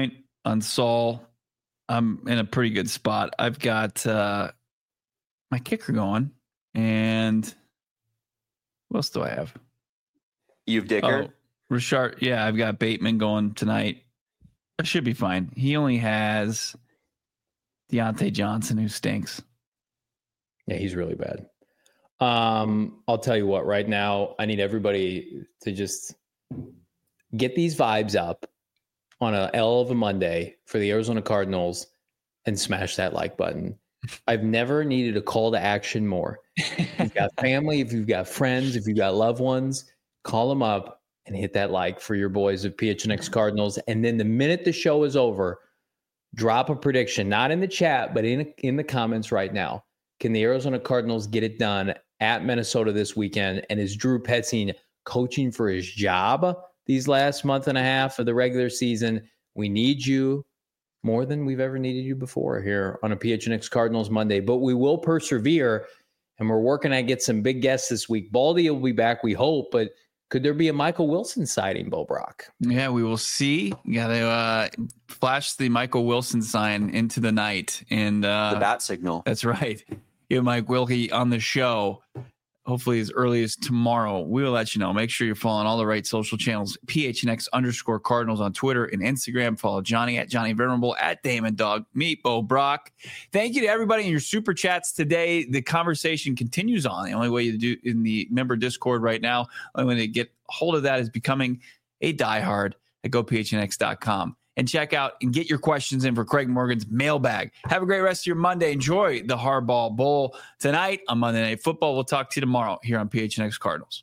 on Saul. I'm in a pretty good spot. I've got my kicker going, and what else do I have? You've Dicker? Richard. Yeah, I've got Bateman going tonight. I should be fine. He only has Deontay Johnson, who stinks. Yeah, he's really bad. I'll tell you what, right now, I need everybody to just get these vibes up on a L of a Monday for the Arizona Cardinals and smash that like button. I've never needed a call to action more. If you've got family, if you've got friends, if you've got loved ones, call them up and hit that like for your boys of PHNX Cardinals. And then the minute the show is over, drop a prediction, not in the chat, but in the comments right now. Can the Arizona Cardinals get it done at Minnesota this weekend? And is Drew Petzing coaching for his job these last month and a half of the regular season? We need you more than we've ever needed you before here on a PHNX Cardinals Monday, but we will persevere, and we're working to get some big guests this week. Baldy will be back, we hope, but could there be a Michael Wilson sighting, Bo Brock? Yeah, we will see. You got to flash the Michael Wilson sign into the night. And the bat signal. That's right. Get Mike Wilkie on the show, hopefully as early as tomorrow. We will let you know. Make sure you're following all the right social channels. PHNX_Cardinals on Twitter and Instagram. Follow Johnny at Johnny Venerable, at Damon Dog, me, Bo Brock. Thank you to everybody in your super chats today. The conversation continues on. The only way you do in the member Discord right now, the only way to get hold of that is becoming a diehard at gophnx.com. And check out and get your questions in for Craig Morgan's mailbag. Have a great rest of your Monday. Enjoy the Hardball Bowl tonight on Monday Night Football. We'll talk to you tomorrow here on PHNX Cardinals.